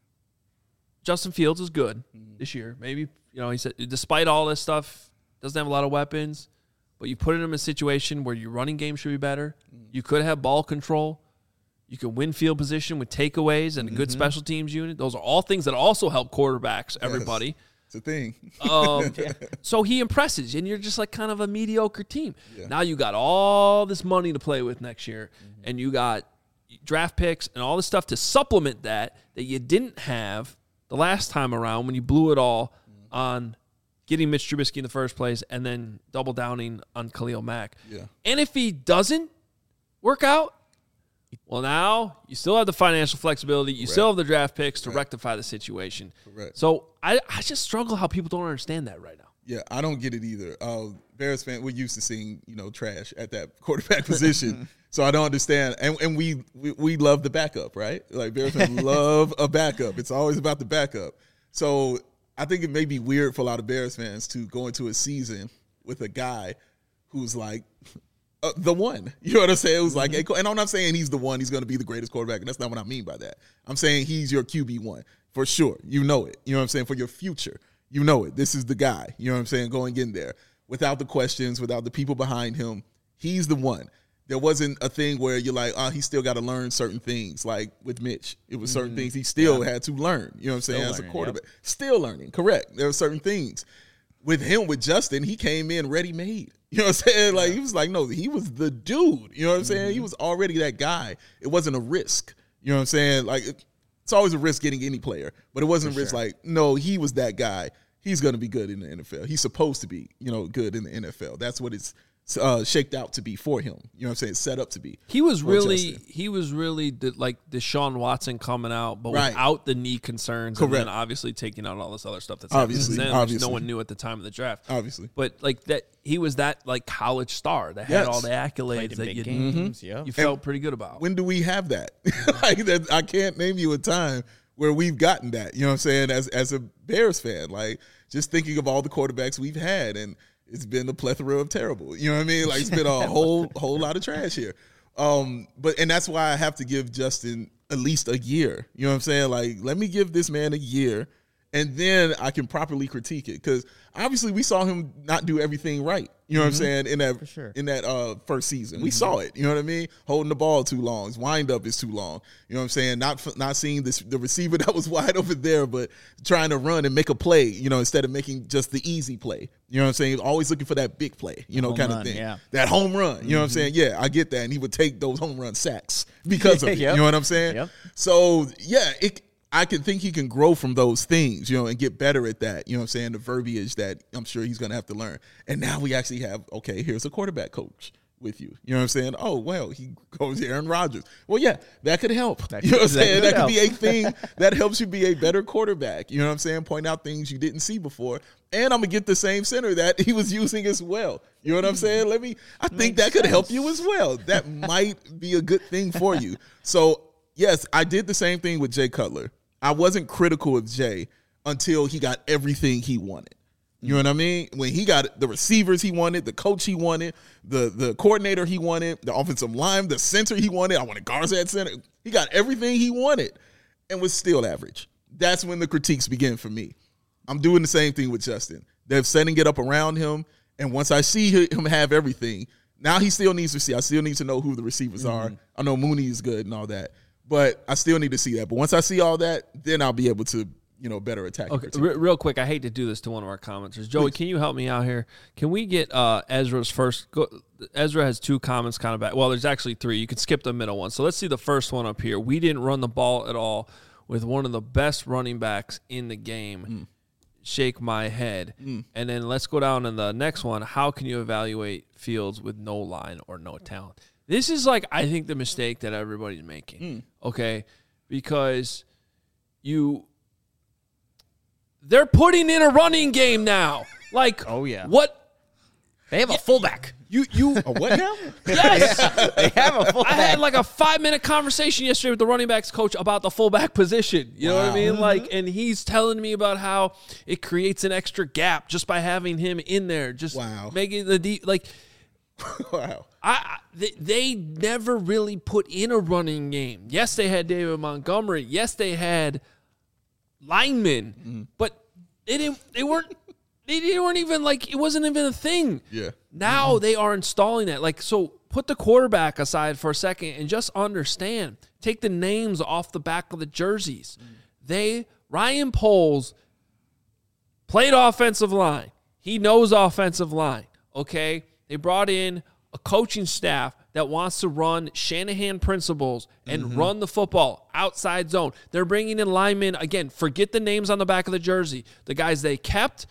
Speaker 1: Justin Fields is good this year, maybe, he said, despite all this stuff, doesn't have a lot of weapons, but you put him in a situation where your running game should be better. You could have ball control. You can win field position with takeaways and a good special teams unit. Those are all things that also help quarterbacks, everybody.
Speaker 2: It's a thing.
Speaker 1: So he impresses, and you're just like kind of a mediocre team. Yeah. Now you got all this money to play with next year, and you got draft picks and all this stuff to supplement that you didn't have the last time around when you blew it all on getting Mitch Trubisky in the first place and then double downing on Khalil Mack.
Speaker 2: Yeah.
Speaker 1: And if he doesn't work out, well, now you still have the financial flexibility. You still have the draft picks to rectify the situation.
Speaker 2: Correct.
Speaker 1: So I just struggle how people don't understand that right now.
Speaker 2: Yeah, I don't get it either. Bears fan, we're used to seeing trash at that quarterback position, so I don't understand. And we love the backup, right? Like Bears fans love a backup. It's always about the backup. So I think it may be weird for a lot of Bears fans to go into a season with a guy who's like the one. You know what I'm saying? It was like, and I'm not saying he's the one. He's going to be the greatest quarterback, and that's not what I mean by that. I'm saying he's your QB1 for sure. You know it. You know what I'm saying? For your future. You know it. This is the guy. You know what I'm saying? Going in there without the questions, without the people behind him. He's the one. There wasn't a thing where you're like, he still got to learn certain things. Like with Mitch, it was certain things he still had to learn. You know what I'm saying? As a quarterback. Yep. Still learning. Correct. There are certain things. With him, with Justin, he came in ready-made. You know what I'm saying? Like, he was like, no, he was the dude. You know what I'm saying? He was already that guy. It wasn't a risk. You know what I'm saying? Like, it's always a risk getting any player, but it wasn't a risk like, no, he was that guy. He's going to be good in the NFL. He's supposed to be, good in the NFL. That's what it's shaped out to be for him. You know what I'm saying? Set up to be.
Speaker 1: He was really like Deshaun Watson coming out, but without the knee concerns. Correct. And then obviously taking out all this other stuff that's happening since then, which no one knew at the time of the draft.
Speaker 2: Obviously.
Speaker 1: But like that, he was that like college star that had all the accolades that you felt pretty good about.
Speaker 2: When do we have that? Like that, I can't name you a time where we've gotten that. You know what I'm saying? As a Bears fan, like just thinking of all the quarterbacks we've had, and it's been a plethora of terrible. You know what I mean? Like it's been a whole lot of trash here. And that's why I have to give Justin at least a year. You know what I'm saying? Like, let me give this man a year, and then I can properly critique it. Because obviously we saw him not do everything right You know what I'm saying? In that first season, we saw it. You know what I mean? Holding the ball too long, his wind up is too long. You know what I'm saying? Not seeing the receiver that was wide over there, but trying to run and make a play. You know, instead of making just the easy play. You know what I'm saying? Always looking for that big play. You know, kind of thing. Yeah. That home run. You know what I'm saying? Yeah, I get that, and he would take those home run sacks because of it. You know what I'm saying?
Speaker 3: Yep.
Speaker 2: So yeah, I can think he can grow from those things, you know, and get better at that. You know what I'm saying? The verbiage that I'm sure he's going to have to learn. And now we actually have, okay, here's a quarterback coach with you. You know what I'm saying? Oh, well, he goes Aaron Rodgers. Well, yeah, that could help. You know what I'm saying? That could be a thing that helps you be a better quarterback. You know what I'm saying? Point out things you didn't see before. And I'm going to get the same center that he was using as well. You know what I'm saying? I think that could help you as well. That might be a good thing for you. So, yes, I did the same thing with Jay Cutler. I wasn't critical of Jay until he got everything he wanted. You know what I mean? When he got the receivers he wanted, the coach he wanted, the coordinator he wanted, the offensive line, the center he wanted. I wanted Garza at center. He got everything he wanted and was still average. That's when the critiques begin for me. I'm doing the same thing with Justin. They're setting it up around him, and once I see him have everything, now he still needs to see. I still need to know who the receivers are. I know Mooney is good and all that. But I still need to see that. But once I see all that, then I'll be able to, better attack.
Speaker 1: Okay, real quick, I hate to do this to one of our commenters. Joey, Can you help me out here? Can we get Ezra's first? Ezra has 2 comments kind of back. Well, there's actually 3. You can skip the middle one. So let's see the first one up here. We didn't run the ball at all with one of the best running backs in the game. Shake my head. And then let's go down to the next one. How can you evaluate Fields with no line or no talent? This is I think the mistake that everybody's making, okay? Because they're putting in a running game now.
Speaker 3: Oh yeah.
Speaker 1: What?
Speaker 3: They have a fullback.
Speaker 2: A what now?
Speaker 1: Yes.
Speaker 3: They have a fullback.
Speaker 1: I had a 5-minute conversation yesterday with the running backs coach about the fullback position. You know what I mean? And he's telling me about how it creates an extra gap just by having him in there. Just making the deep, wow. They never really put in a running game. Yes, they had David Montgomery. Yes, they had linemen, but they weren't even it wasn't even a thing.
Speaker 2: Yeah.
Speaker 1: Now they are installing that. So put the quarterback aside for a second and just understand. Take the names off the back of the jerseys. Ryan Poles played offensive line. He knows offensive line. Okay. They brought in a coaching staff that wants to run Shanahan principles and run the football outside zone. They're bringing in linemen. Again, forget the names on the back of the jersey. The guys they kept,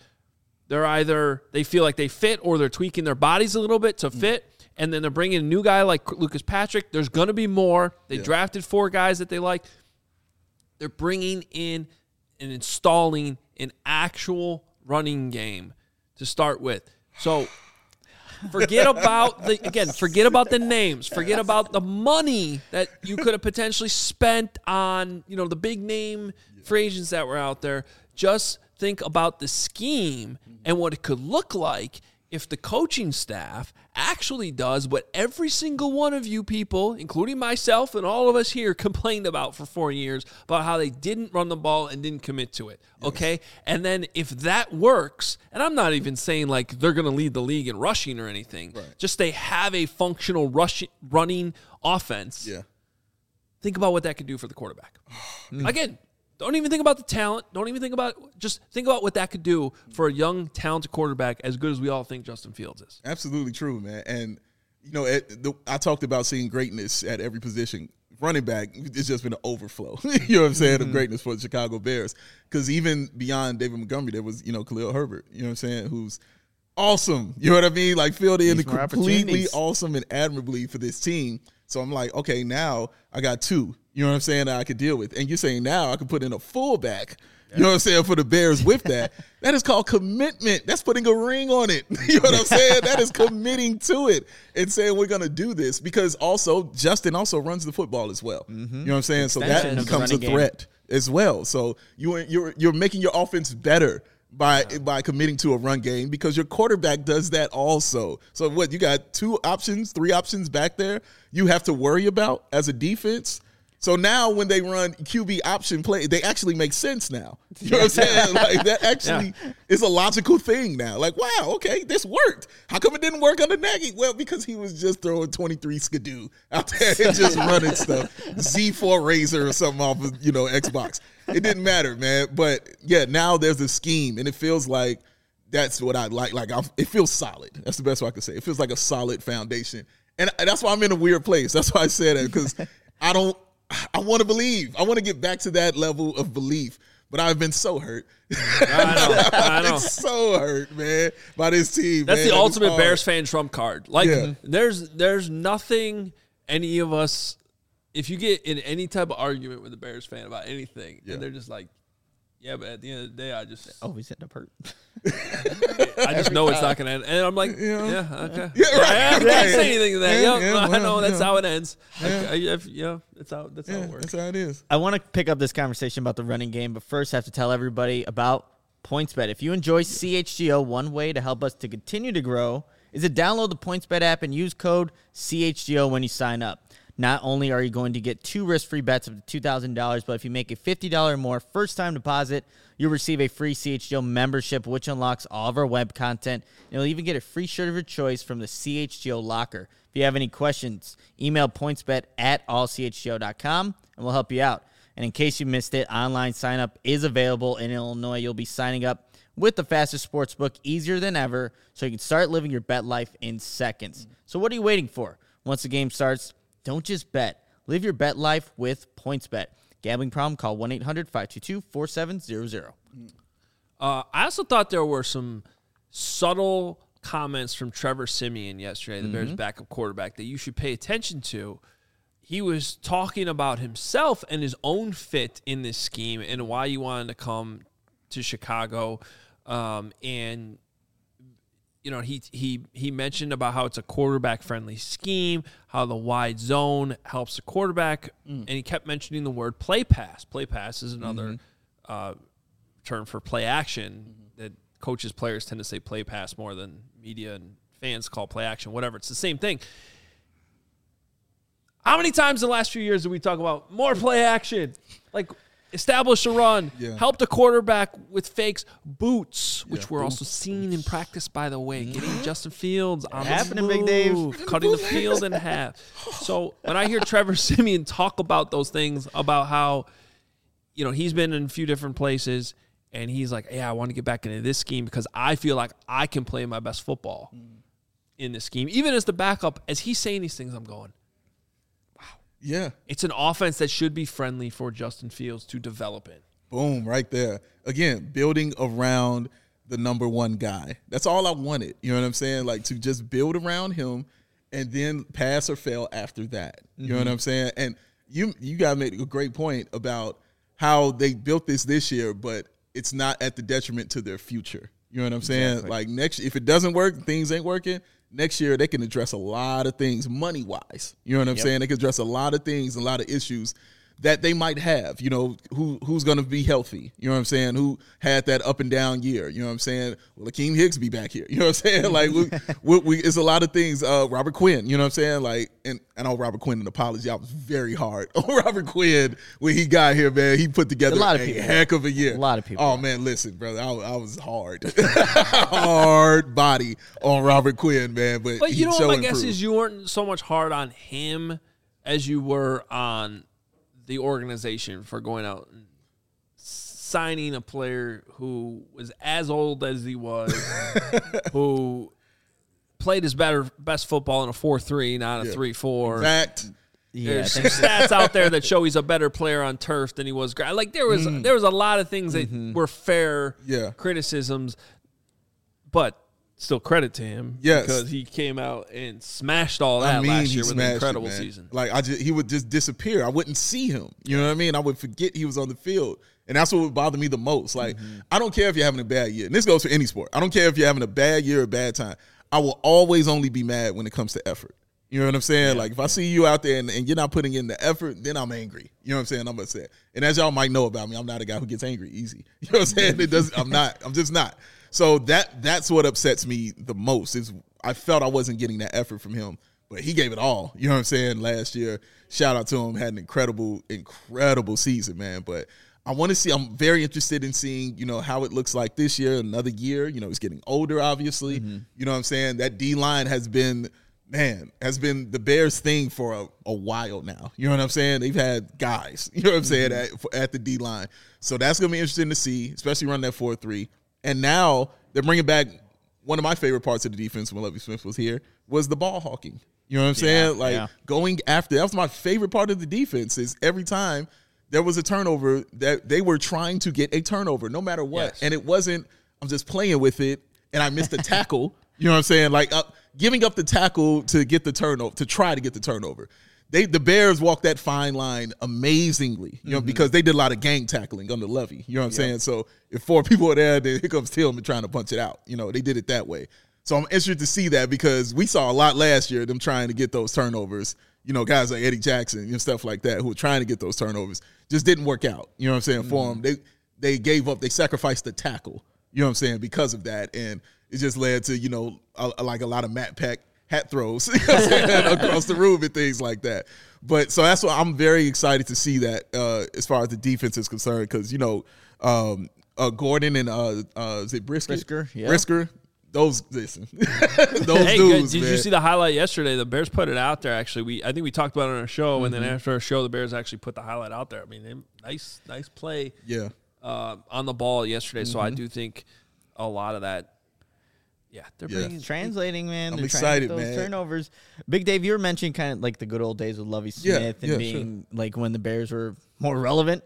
Speaker 1: they feel like they fit or they're tweaking their bodies a little bit to fit. And then they're bringing a new guy like Lucas Patrick. There's going to be more. They drafted 4 guys that they like. They're bringing in and installing an actual running game to start with. So forget about the names. Forget about the money that you could have potentially spent on, the big name free agents that were out there. Just think about the scheme and what it could look like if the coaching staff actually does what every single one of you people, including myself and all of us here, complained about for 4 years about how they didn't run the ball and didn't commit to it. Okay? And then if that works, and I'm not even saying they're going to lead the league in rushing or anything, just they have a functional running offense.
Speaker 2: Yeah.
Speaker 1: Think about what that could do for the quarterback. Again, don't even think about the talent. Don't even think about it. Just think about what that could do for a young, talented quarterback as good as we all think Justin Fields is.
Speaker 2: Absolutely true, man. And, I talked about seeing greatness at every position. Running back, it's just been an overflow, you know what I'm saying, of greatness for the Chicago Bears. Because even beyond David Montgomery, there was, Khalil Herbert, you know what I'm saying, who's awesome. You know what I mean? Filled in completely awesome and admirably for this team. So I'm like, okay, now I got 2. You know what I'm saying, that I could deal with. And you're saying now I can put in a fullback, you know what I'm saying, for the Bears with that. That is called commitment. That's putting a ring on it. You know what I'm saying? That is committing to it and saying we're going to do this because also Justin also runs the football as well. You know what I'm saying? So that becomes a threat as well. So you're making your offense better by committing to a run game because your quarterback does that also. So what, you got 2 options, 3 options back there you have to worry about as a defense. So now when they run QB option play, they actually make sense now. You know what I'm saying? Like that actually is a logical thing now. Like, wow, okay, this worked. How come it didn't work under Nagy? Well, because he was just throwing 23 Skidoo out there and just running stuff. Z4 Razor or something off of, Xbox. It didn't matter, man. But yeah, now there's a scheme, and it feels like that's what I like. It feels solid. That's the best way I can say. It feels like a solid foundation. And that's why I'm in a weird place. That's why I said that, because I want to believe. I want to get back to that level of belief, but I've been so hurt. I know. So hurt, man, by this team.
Speaker 1: That's the ultimate Bears fan trump card. There's nothing any of us, if you get in any type of argument with a Bears fan about anything, and they're just like, yeah, but at the end of the day, I just
Speaker 3: he's hitting up hurt.
Speaker 1: I just know it's not going to end, and I'm like, okay,
Speaker 2: I
Speaker 1: can't say anything to that. I know that's how it ends. That's how it works.
Speaker 2: That's how it is.
Speaker 3: I want to pick up this conversation about the running game, but first I have to tell everybody about PointsBet. If you enjoy CHGO, one way to help us to continue to grow is to download the PointsBet app and use code CHGO when you sign up. Not only are you going to get 2 risk-free bets of $2,000, but if you make a $50 or more first-time deposit, you'll receive a free CHGO membership, which unlocks all of our web content. And you'll even get a free shirt of your choice from the CHGO locker. If you have any questions, email pointsbet@allchgo.com, and we'll help you out. And in case you missed it, online sign-up is available in Illinois. You'll be signing up with the fastest sportsbook, easier than ever, so you can start living your bet life in seconds. So what are you waiting for? Once the game starts, don't just bet. Live your bet life with PointsBet. Gambling problem? Call 1-800-522-4700.
Speaker 1: I also thought there were some subtle comments from Trevor Siemian yesterday, the Bears' backup quarterback, that you should pay attention to. He was talking about himself and his own fit in this scheme and why he wanted to come to Chicago. And he mentioned about how it's a quarterback-friendly scheme, how the wide zone helps the quarterback, and he kept mentioning the word play pass. Play pass is another term for play action that coaches, players tend to say play pass more than media and fans call play action, whatever. It's the same thing. How many times in the last few years did we talk about more play action? Like, establish a run, help the quarterback with fakes, boots, which we're also seeing in practice, by the way, getting Justin Fields on the move,
Speaker 3: Big Dave,
Speaker 1: cutting the field in half. So when I hear Trevor Siemian talk about those things, about how, he's been in a few different places, and he's like, I want to get back into this scheme because I feel like I can play my best football in this scheme. Even as the backup, as he's saying these things, I'm going,
Speaker 2: yeah.
Speaker 1: It's an offense that should be friendly for Justin Fields to develop in.
Speaker 2: Boom, right there. Again, building around the number one guy. That's all I wanted. You know what I'm saying? Like, to just build around him and then pass or fail after that. You know what I'm saying? And you guys made a great point about how they built this year, but it's not at the detriment to their future. You know what I'm saying?
Speaker 3: Exactly.
Speaker 2: Like, if it doesn't work, things ain't working. Next year, they can address a lot of things money-wise. You know what I'm saying? They can address a lot of things, a lot of issues that they might have. Who's going to be healthy? You know what I'm saying? Who had that up and down year? You know what I'm saying? Will Akeem Hicks be back here? You know what I'm saying? Like, it's a lot of things. Robert Quinn, you know what I'm saying? Like, and I know Robert Quinn, an apology, I was very hard on Robert Quinn when he got here, man. He put together a heck of a year.
Speaker 3: A lot of people.
Speaker 2: Oh, man, listen, brother, I was hard. Hard body on Robert Quinn, man. But
Speaker 1: you know what my guess is, you weren't so much hard on him as you were on the organization for going out and signing a player who was as old as he was, who played his best football in a 4-3, not a 3-4.
Speaker 2: Fact.
Speaker 1: There's some stats out there that show he's a better player on turf than he was. Like, there was a lot of things that were fair criticisms, but still credit to him because he came out and smashed all that last year with an incredible season.
Speaker 2: Like, he would just disappear. I wouldn't see him. You know what I mean? I would forget he was on the field. And that's what would bother me the most. Like, I don't care if you're having a bad year. And this goes for any sport. I don't care if you're having a bad year or a bad time. I will always only be mad when it comes to effort. You know what I'm saying? Like, if I see you out there and you're not putting in the effort, then I'm angry. You know what I'm saying? I'm upset. And as y'all might know about me, I'm not a guy who gets angry easy. You know what I'm saying? I'm just not. So that's what upsets me the most is I felt I wasn't getting that effort from him but he gave it all. You know what I'm saying? Last year, shout out to him. Had an incredible season, man. But I want to see. I'm very interested in seeing, how it looks like this year, another year. He's getting older, obviously. Mm-hmm. You know what I'm saying? That D-line has been the Bears' thing for a while now. You know what I'm saying? They've had guys, you know what I'm saying, at the D-line. So that's going to be interesting to see, especially running that 4-3. And now they're bringing back one of my favorite parts of the defense when Lovie Smith was here was the ball hawking. You know what I'm saying? Going after. That was my favorite part of the defense is every time there was a turnover that they were trying to get a turnover no matter what. Yes. And it wasn't, I'm just playing with it and I missed a tackle. You know what I'm saying? Giving up the tackle to get the turnover, to try to get the turnover. The Bears walked that fine line amazingly, because they did a lot of gang tackling under Lovie. You know what I'm saying? So if 4 people are there, then here comes Tillman trying to punch it out. They did it that way. So I'm interested to see that because we saw a lot last year, them trying to get those turnovers. Guys like Eddie Jackson and stuff like that who were trying to get those turnovers just didn't work out. You know what I'm saying? For them, they gave up, they sacrificed the tackle. You know what I'm saying? Because of that, and it just led to a lot of Matt Peck hat throws across the room and things like that. But so that's why I'm very excited to see that as far as the defense is concerned because Gordon and is it Brisker? Brisker. Those dudes.
Speaker 1: Did you see the highlight yesterday? The Bears put it out there. Actually, I think we talked about it on our show, and then after our show, the Bears actually put the highlight out there. I mean, nice play.
Speaker 2: Yeah.
Speaker 1: On the ball yesterday. So I do think a lot of that. Yeah, they're bringing
Speaker 3: translating, man.
Speaker 2: I'm excited,
Speaker 3: those
Speaker 2: man.
Speaker 3: Turnovers. Big Dave, you were mentioning kind of like the good old days with Lovie Smith and being like when the Bears were more relevant.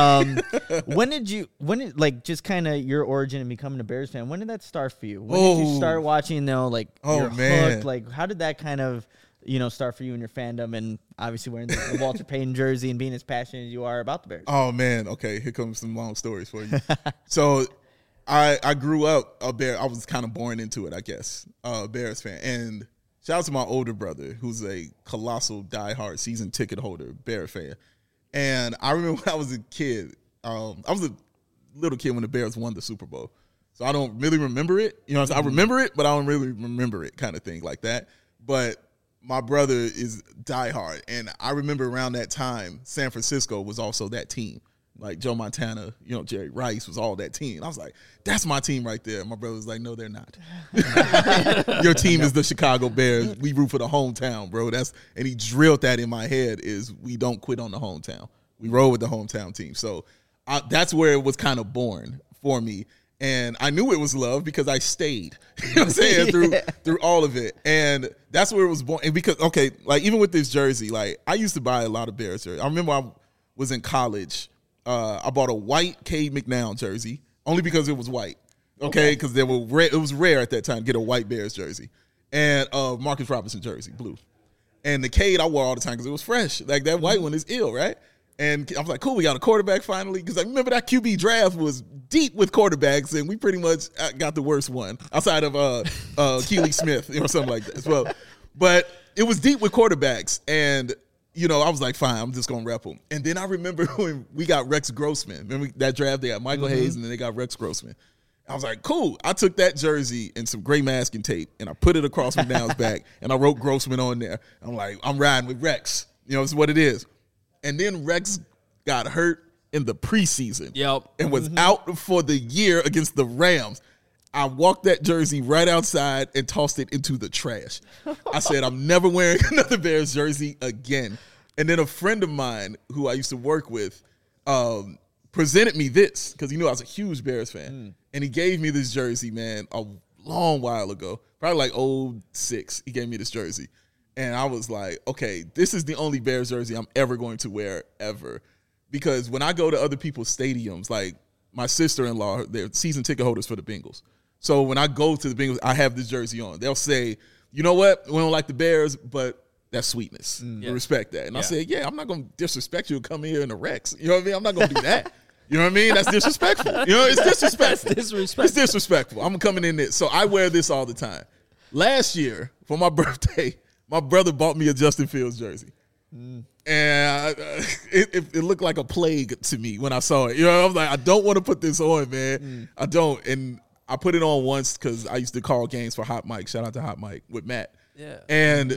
Speaker 3: When did just kind of your origin in becoming a Bears fan? When did that start for you? When did you start watching you're hooked? Like how did that kind of start for you in your fandom and obviously wearing the Walter Payton jersey and being as passionate as you are about the Bears?
Speaker 2: Oh man, okay, here comes some long stories for you. So I grew up a Bear. I was kind of born into it, I guess, a Bears fan. And shout out to my older brother, who's a colossal diehard season ticket holder, Bear fan. And I remember when I was a kid, I was a little kid when the Bears won the Super Bowl. So I don't really remember it. I remember it, but I don't really remember it kind of thing like that. But my brother is diehard. And I remember around that time, San Francisco was also that team. Like Joe Montana, Jerry Rice was all that team. I was like, that's my team right there. My brother was like, no, they're not. Your team is the Chicago Bears. We root for the hometown, bro. And he drilled that in my head is we don't quit on the hometown. We roll with the hometown team. So that's where it was kind of born for me. And I knew it was love because I stayed, what I'm saying, through all of it. And that's where it was born. And because, even with this jersey, I used to buy a lot of Bears jerseys. I remember I was in college. I bought a white Cade McNown jersey only because it was white. Because it was rare at that time to get a white Bears jersey, and Marcus Robinson jersey, blue. And the Cade I wore all the time because it was fresh. Like that white one is ill, right? And I was like, cool, we got a quarterback finally. Because I remember that QB draft was deep with quarterbacks, and we pretty much got the worst one outside of Keely Smith or something like that as well. But it was deep with quarterbacks, and I was like, fine, I'm just going to rep them. And then I remember when we got Rex Grossman. Remember that draft? They got Michael Hayes, and then they got Rex Grossman. I was like, cool. I took that jersey and some gray masking tape, and I put it across McNown's back, and I wrote Grossman on there. I'm like, I'm riding with Rex. It's what it is. And then Rex got hurt in the preseason and was out for the year against the Rams. I walked that jersey right outside and tossed it into the trash. I said, I'm never wearing another Bears jersey again. And then a friend of mine who I used to work with presented me this because he knew I was a huge Bears fan. And he gave me this jersey, man, a long while ago, probably like 2006. He gave me this jersey. And I was like, okay, this is the only Bears jersey I'm ever going to wear ever. Because when I go to other people's stadiums, like my sister-in-law, they're season ticket holders for the Bengals. So when I go to the Bengals, I have this jersey on. They'll say, you know what? We don't like the Bears, but that's sweetness. We respect that. And I said, I'm not going to disrespect you and come here in the Rex. You know what I mean? I'm not going to do that. You know what I mean? That's disrespectful. It's disrespectful. It's disrespectful. I'm coming in there. So I wear this all the time. Last year, for my birthday, my brother bought me a Justin Fields jersey. And it looked like a plague to me when I saw it. I was like, I don't want to put this on, man. I don't. And I put it on once because I used to call games for Hot Mike. Shout out to Hot Mike with Matt.
Speaker 1: Yeah.
Speaker 2: And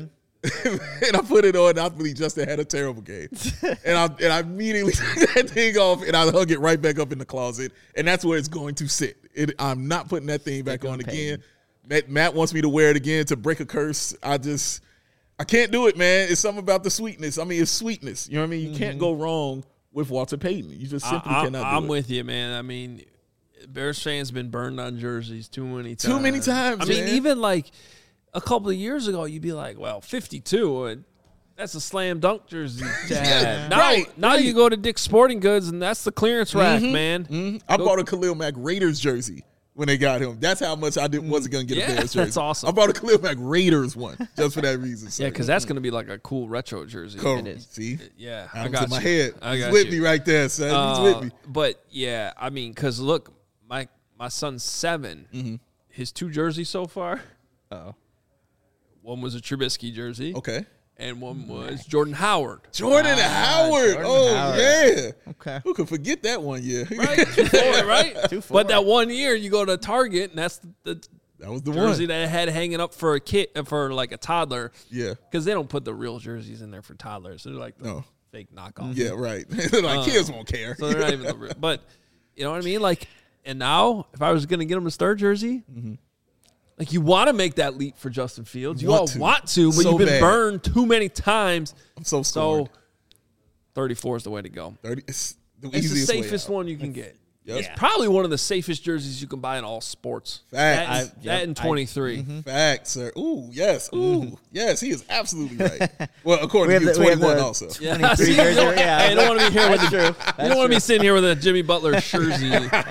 Speaker 2: and I put it on. I believe Justin had a terrible game, and I immediately took that thing off and I hung it right back up in the closet, and that's where it's going to sit. I'm not putting that thing back on again. Matt wants me to wear it again to break a curse. I can't do it, man. It's something about the sweetness. I mean, it's sweetness. You know what I mean? You can't go wrong with Walter Payton. You just simply cannot do it.
Speaker 1: I'm with you, man. I mean, Bears fans been burned on jerseys too many times.
Speaker 2: Too many times,
Speaker 1: I mean, even like a couple of years ago, you'd be like, well, 52, and that's a slam dunk jersey to have. Now you go to Dick's Sporting Goods, and that's the clearance rack, man. Mm-hmm.
Speaker 2: I bought a Khalil Mack Raiders jersey when they got him. That's how much I wasn't going to get a Bears jersey.
Speaker 1: That's awesome.
Speaker 2: I bought a Khalil Mack Raiders one just for that reason. So.
Speaker 1: Yeah, because that's going to be like a cool retro jersey.
Speaker 2: It is. See?
Speaker 1: Yeah.
Speaker 2: I got in my head. He's with me right there, son. He's with me.
Speaker 1: But, yeah, I mean, because, look, my son's 7. Mm-hmm. His 2 jerseys so far.
Speaker 3: Uh-oh.
Speaker 1: One was a Trubisky jersey.
Speaker 2: Okay.
Speaker 1: And one was Jordan Howard.
Speaker 2: Jordan Howard. Howard. Yeah.
Speaker 3: Okay.
Speaker 2: Who could forget that one year?
Speaker 1: Right. 2-4, right? 2-4. But that one year, you go to Target, and that's that
Speaker 2: was the
Speaker 1: jersey
Speaker 2: one
Speaker 1: that I had hanging up for a kid, for like a toddler.
Speaker 2: Yeah.
Speaker 1: Because they don't put the real jerseys in there for toddlers. They're like the fake knockoff.
Speaker 2: Yeah, right. Like kids won't care.
Speaker 1: So they're not even the real. But you know what I mean? Like, and now if I was going to get him a star jersey, like you want to make that leap for Justin Fields. You all want to, but you've been burned too many times.
Speaker 2: I'm so scared.
Speaker 1: 34 is the way to go.
Speaker 2: 30. It's the
Speaker 1: safest one you can get. Yep. It's probably one of the safest jerseys you can buy in all sports.
Speaker 2: Facts.
Speaker 1: That in 23.
Speaker 2: Facts, sir. Ooh, yes. Ooh, yes. He is absolutely right. Well, according to you, 21 also.
Speaker 1: Yeah. I don't want to be here with you don't want to be sitting here with a Jimmy Butler jersey.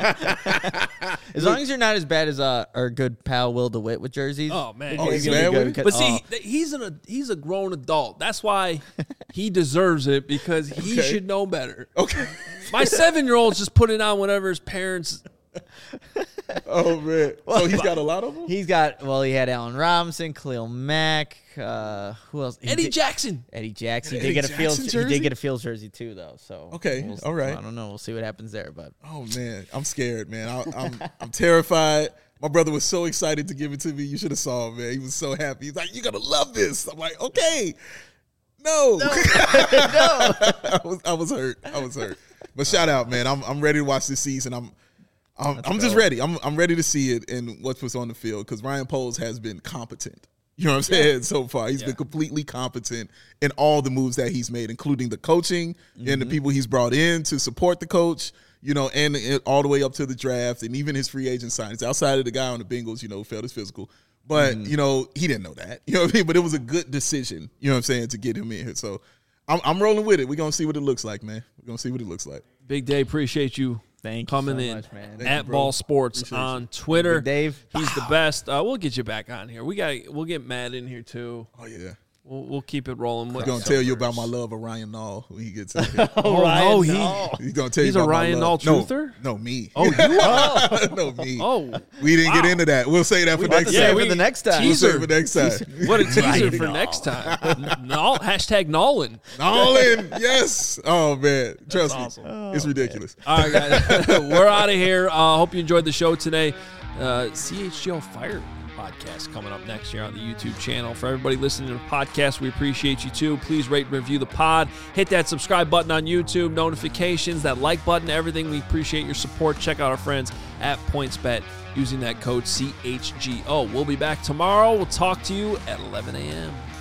Speaker 3: As long as you're not as bad as our good pal Will DeWitt with jerseys.
Speaker 1: Oh man,
Speaker 2: he's bad with it.
Speaker 1: But see, he's a grown adult. That's why he deserves it because he should know better.
Speaker 2: Okay.
Speaker 1: My 7-year-old's just putting on whatever his parents.
Speaker 2: Oh man! So he's got a lot of them.
Speaker 3: He had Allen Robinson, Khalil Mack. Who else?
Speaker 1: Eddie Jackson.
Speaker 3: He did get a Fields jersey too, though. So
Speaker 2: okay, all right.
Speaker 3: I don't know. We'll see what happens there. But
Speaker 2: oh man, I'm scared, man. I'm terrified. My brother was so excited to give it to me. You should have saw him, man. He was so happy. He's like, "You're gonna love this." I'm like, "Okay." No. I was hurt. But shout out, man. I'm ready to watch this season. I'm just ready. I'm ready to see it and what's on the field because Ryan Poles has been competent. You know what I'm saying? So far, he's been completely competent in all the moves that he's made, including the coaching and the people he's brought in to support the coach. You know, and all the way up to the draft and even his free agent signings. Outside of the guy on the Bengals, failed his physical. But, he didn't know that. You know what I mean? But it was a good decision, you know what I'm saying, to get him in here. So I'm rolling with it. We're going to see what it looks like, man. We're going to see what it looks like.
Speaker 1: Big Dave, appreciate you coming in.
Speaker 3: Much, man.
Speaker 1: At Ball Sports on Twitter.
Speaker 3: Big Dave.
Speaker 1: He's the best. We'll get you back on here. We'll get Matt in here, too.
Speaker 2: Oh, yeah.
Speaker 1: We'll keep it rolling.
Speaker 2: He's going to tell you about my love of Ryan Nall when he gets in here.
Speaker 1: He's going to tell you about
Speaker 2: a Ryan
Speaker 1: Nall truther?
Speaker 2: No, me.
Speaker 1: Oh, you are?
Speaker 2: No, me.
Speaker 1: Oh,
Speaker 2: we didn't get into that. We'll say that for next time.
Speaker 3: For the next time.
Speaker 2: We'll say it for next time.
Speaker 1: What a teaser for next time. Hashtag Nolan.
Speaker 2: Nolan, yes. Oh, man. Trust me.
Speaker 1: Awesome.
Speaker 2: It's ridiculous.
Speaker 1: All right, guys. We're out of here. Hope you enjoyed the show today. CHGO Fire podcast coming up next year on the YouTube channel. For everybody listening to the podcast, we appreciate you too. Please rate and review the pod. Hit that subscribe button on YouTube, notifications, that like button, everything. We appreciate your support. Check out our friends at PointsBet using that code CHGO. We'll be back tomorrow. We'll talk to you at 11 a.m.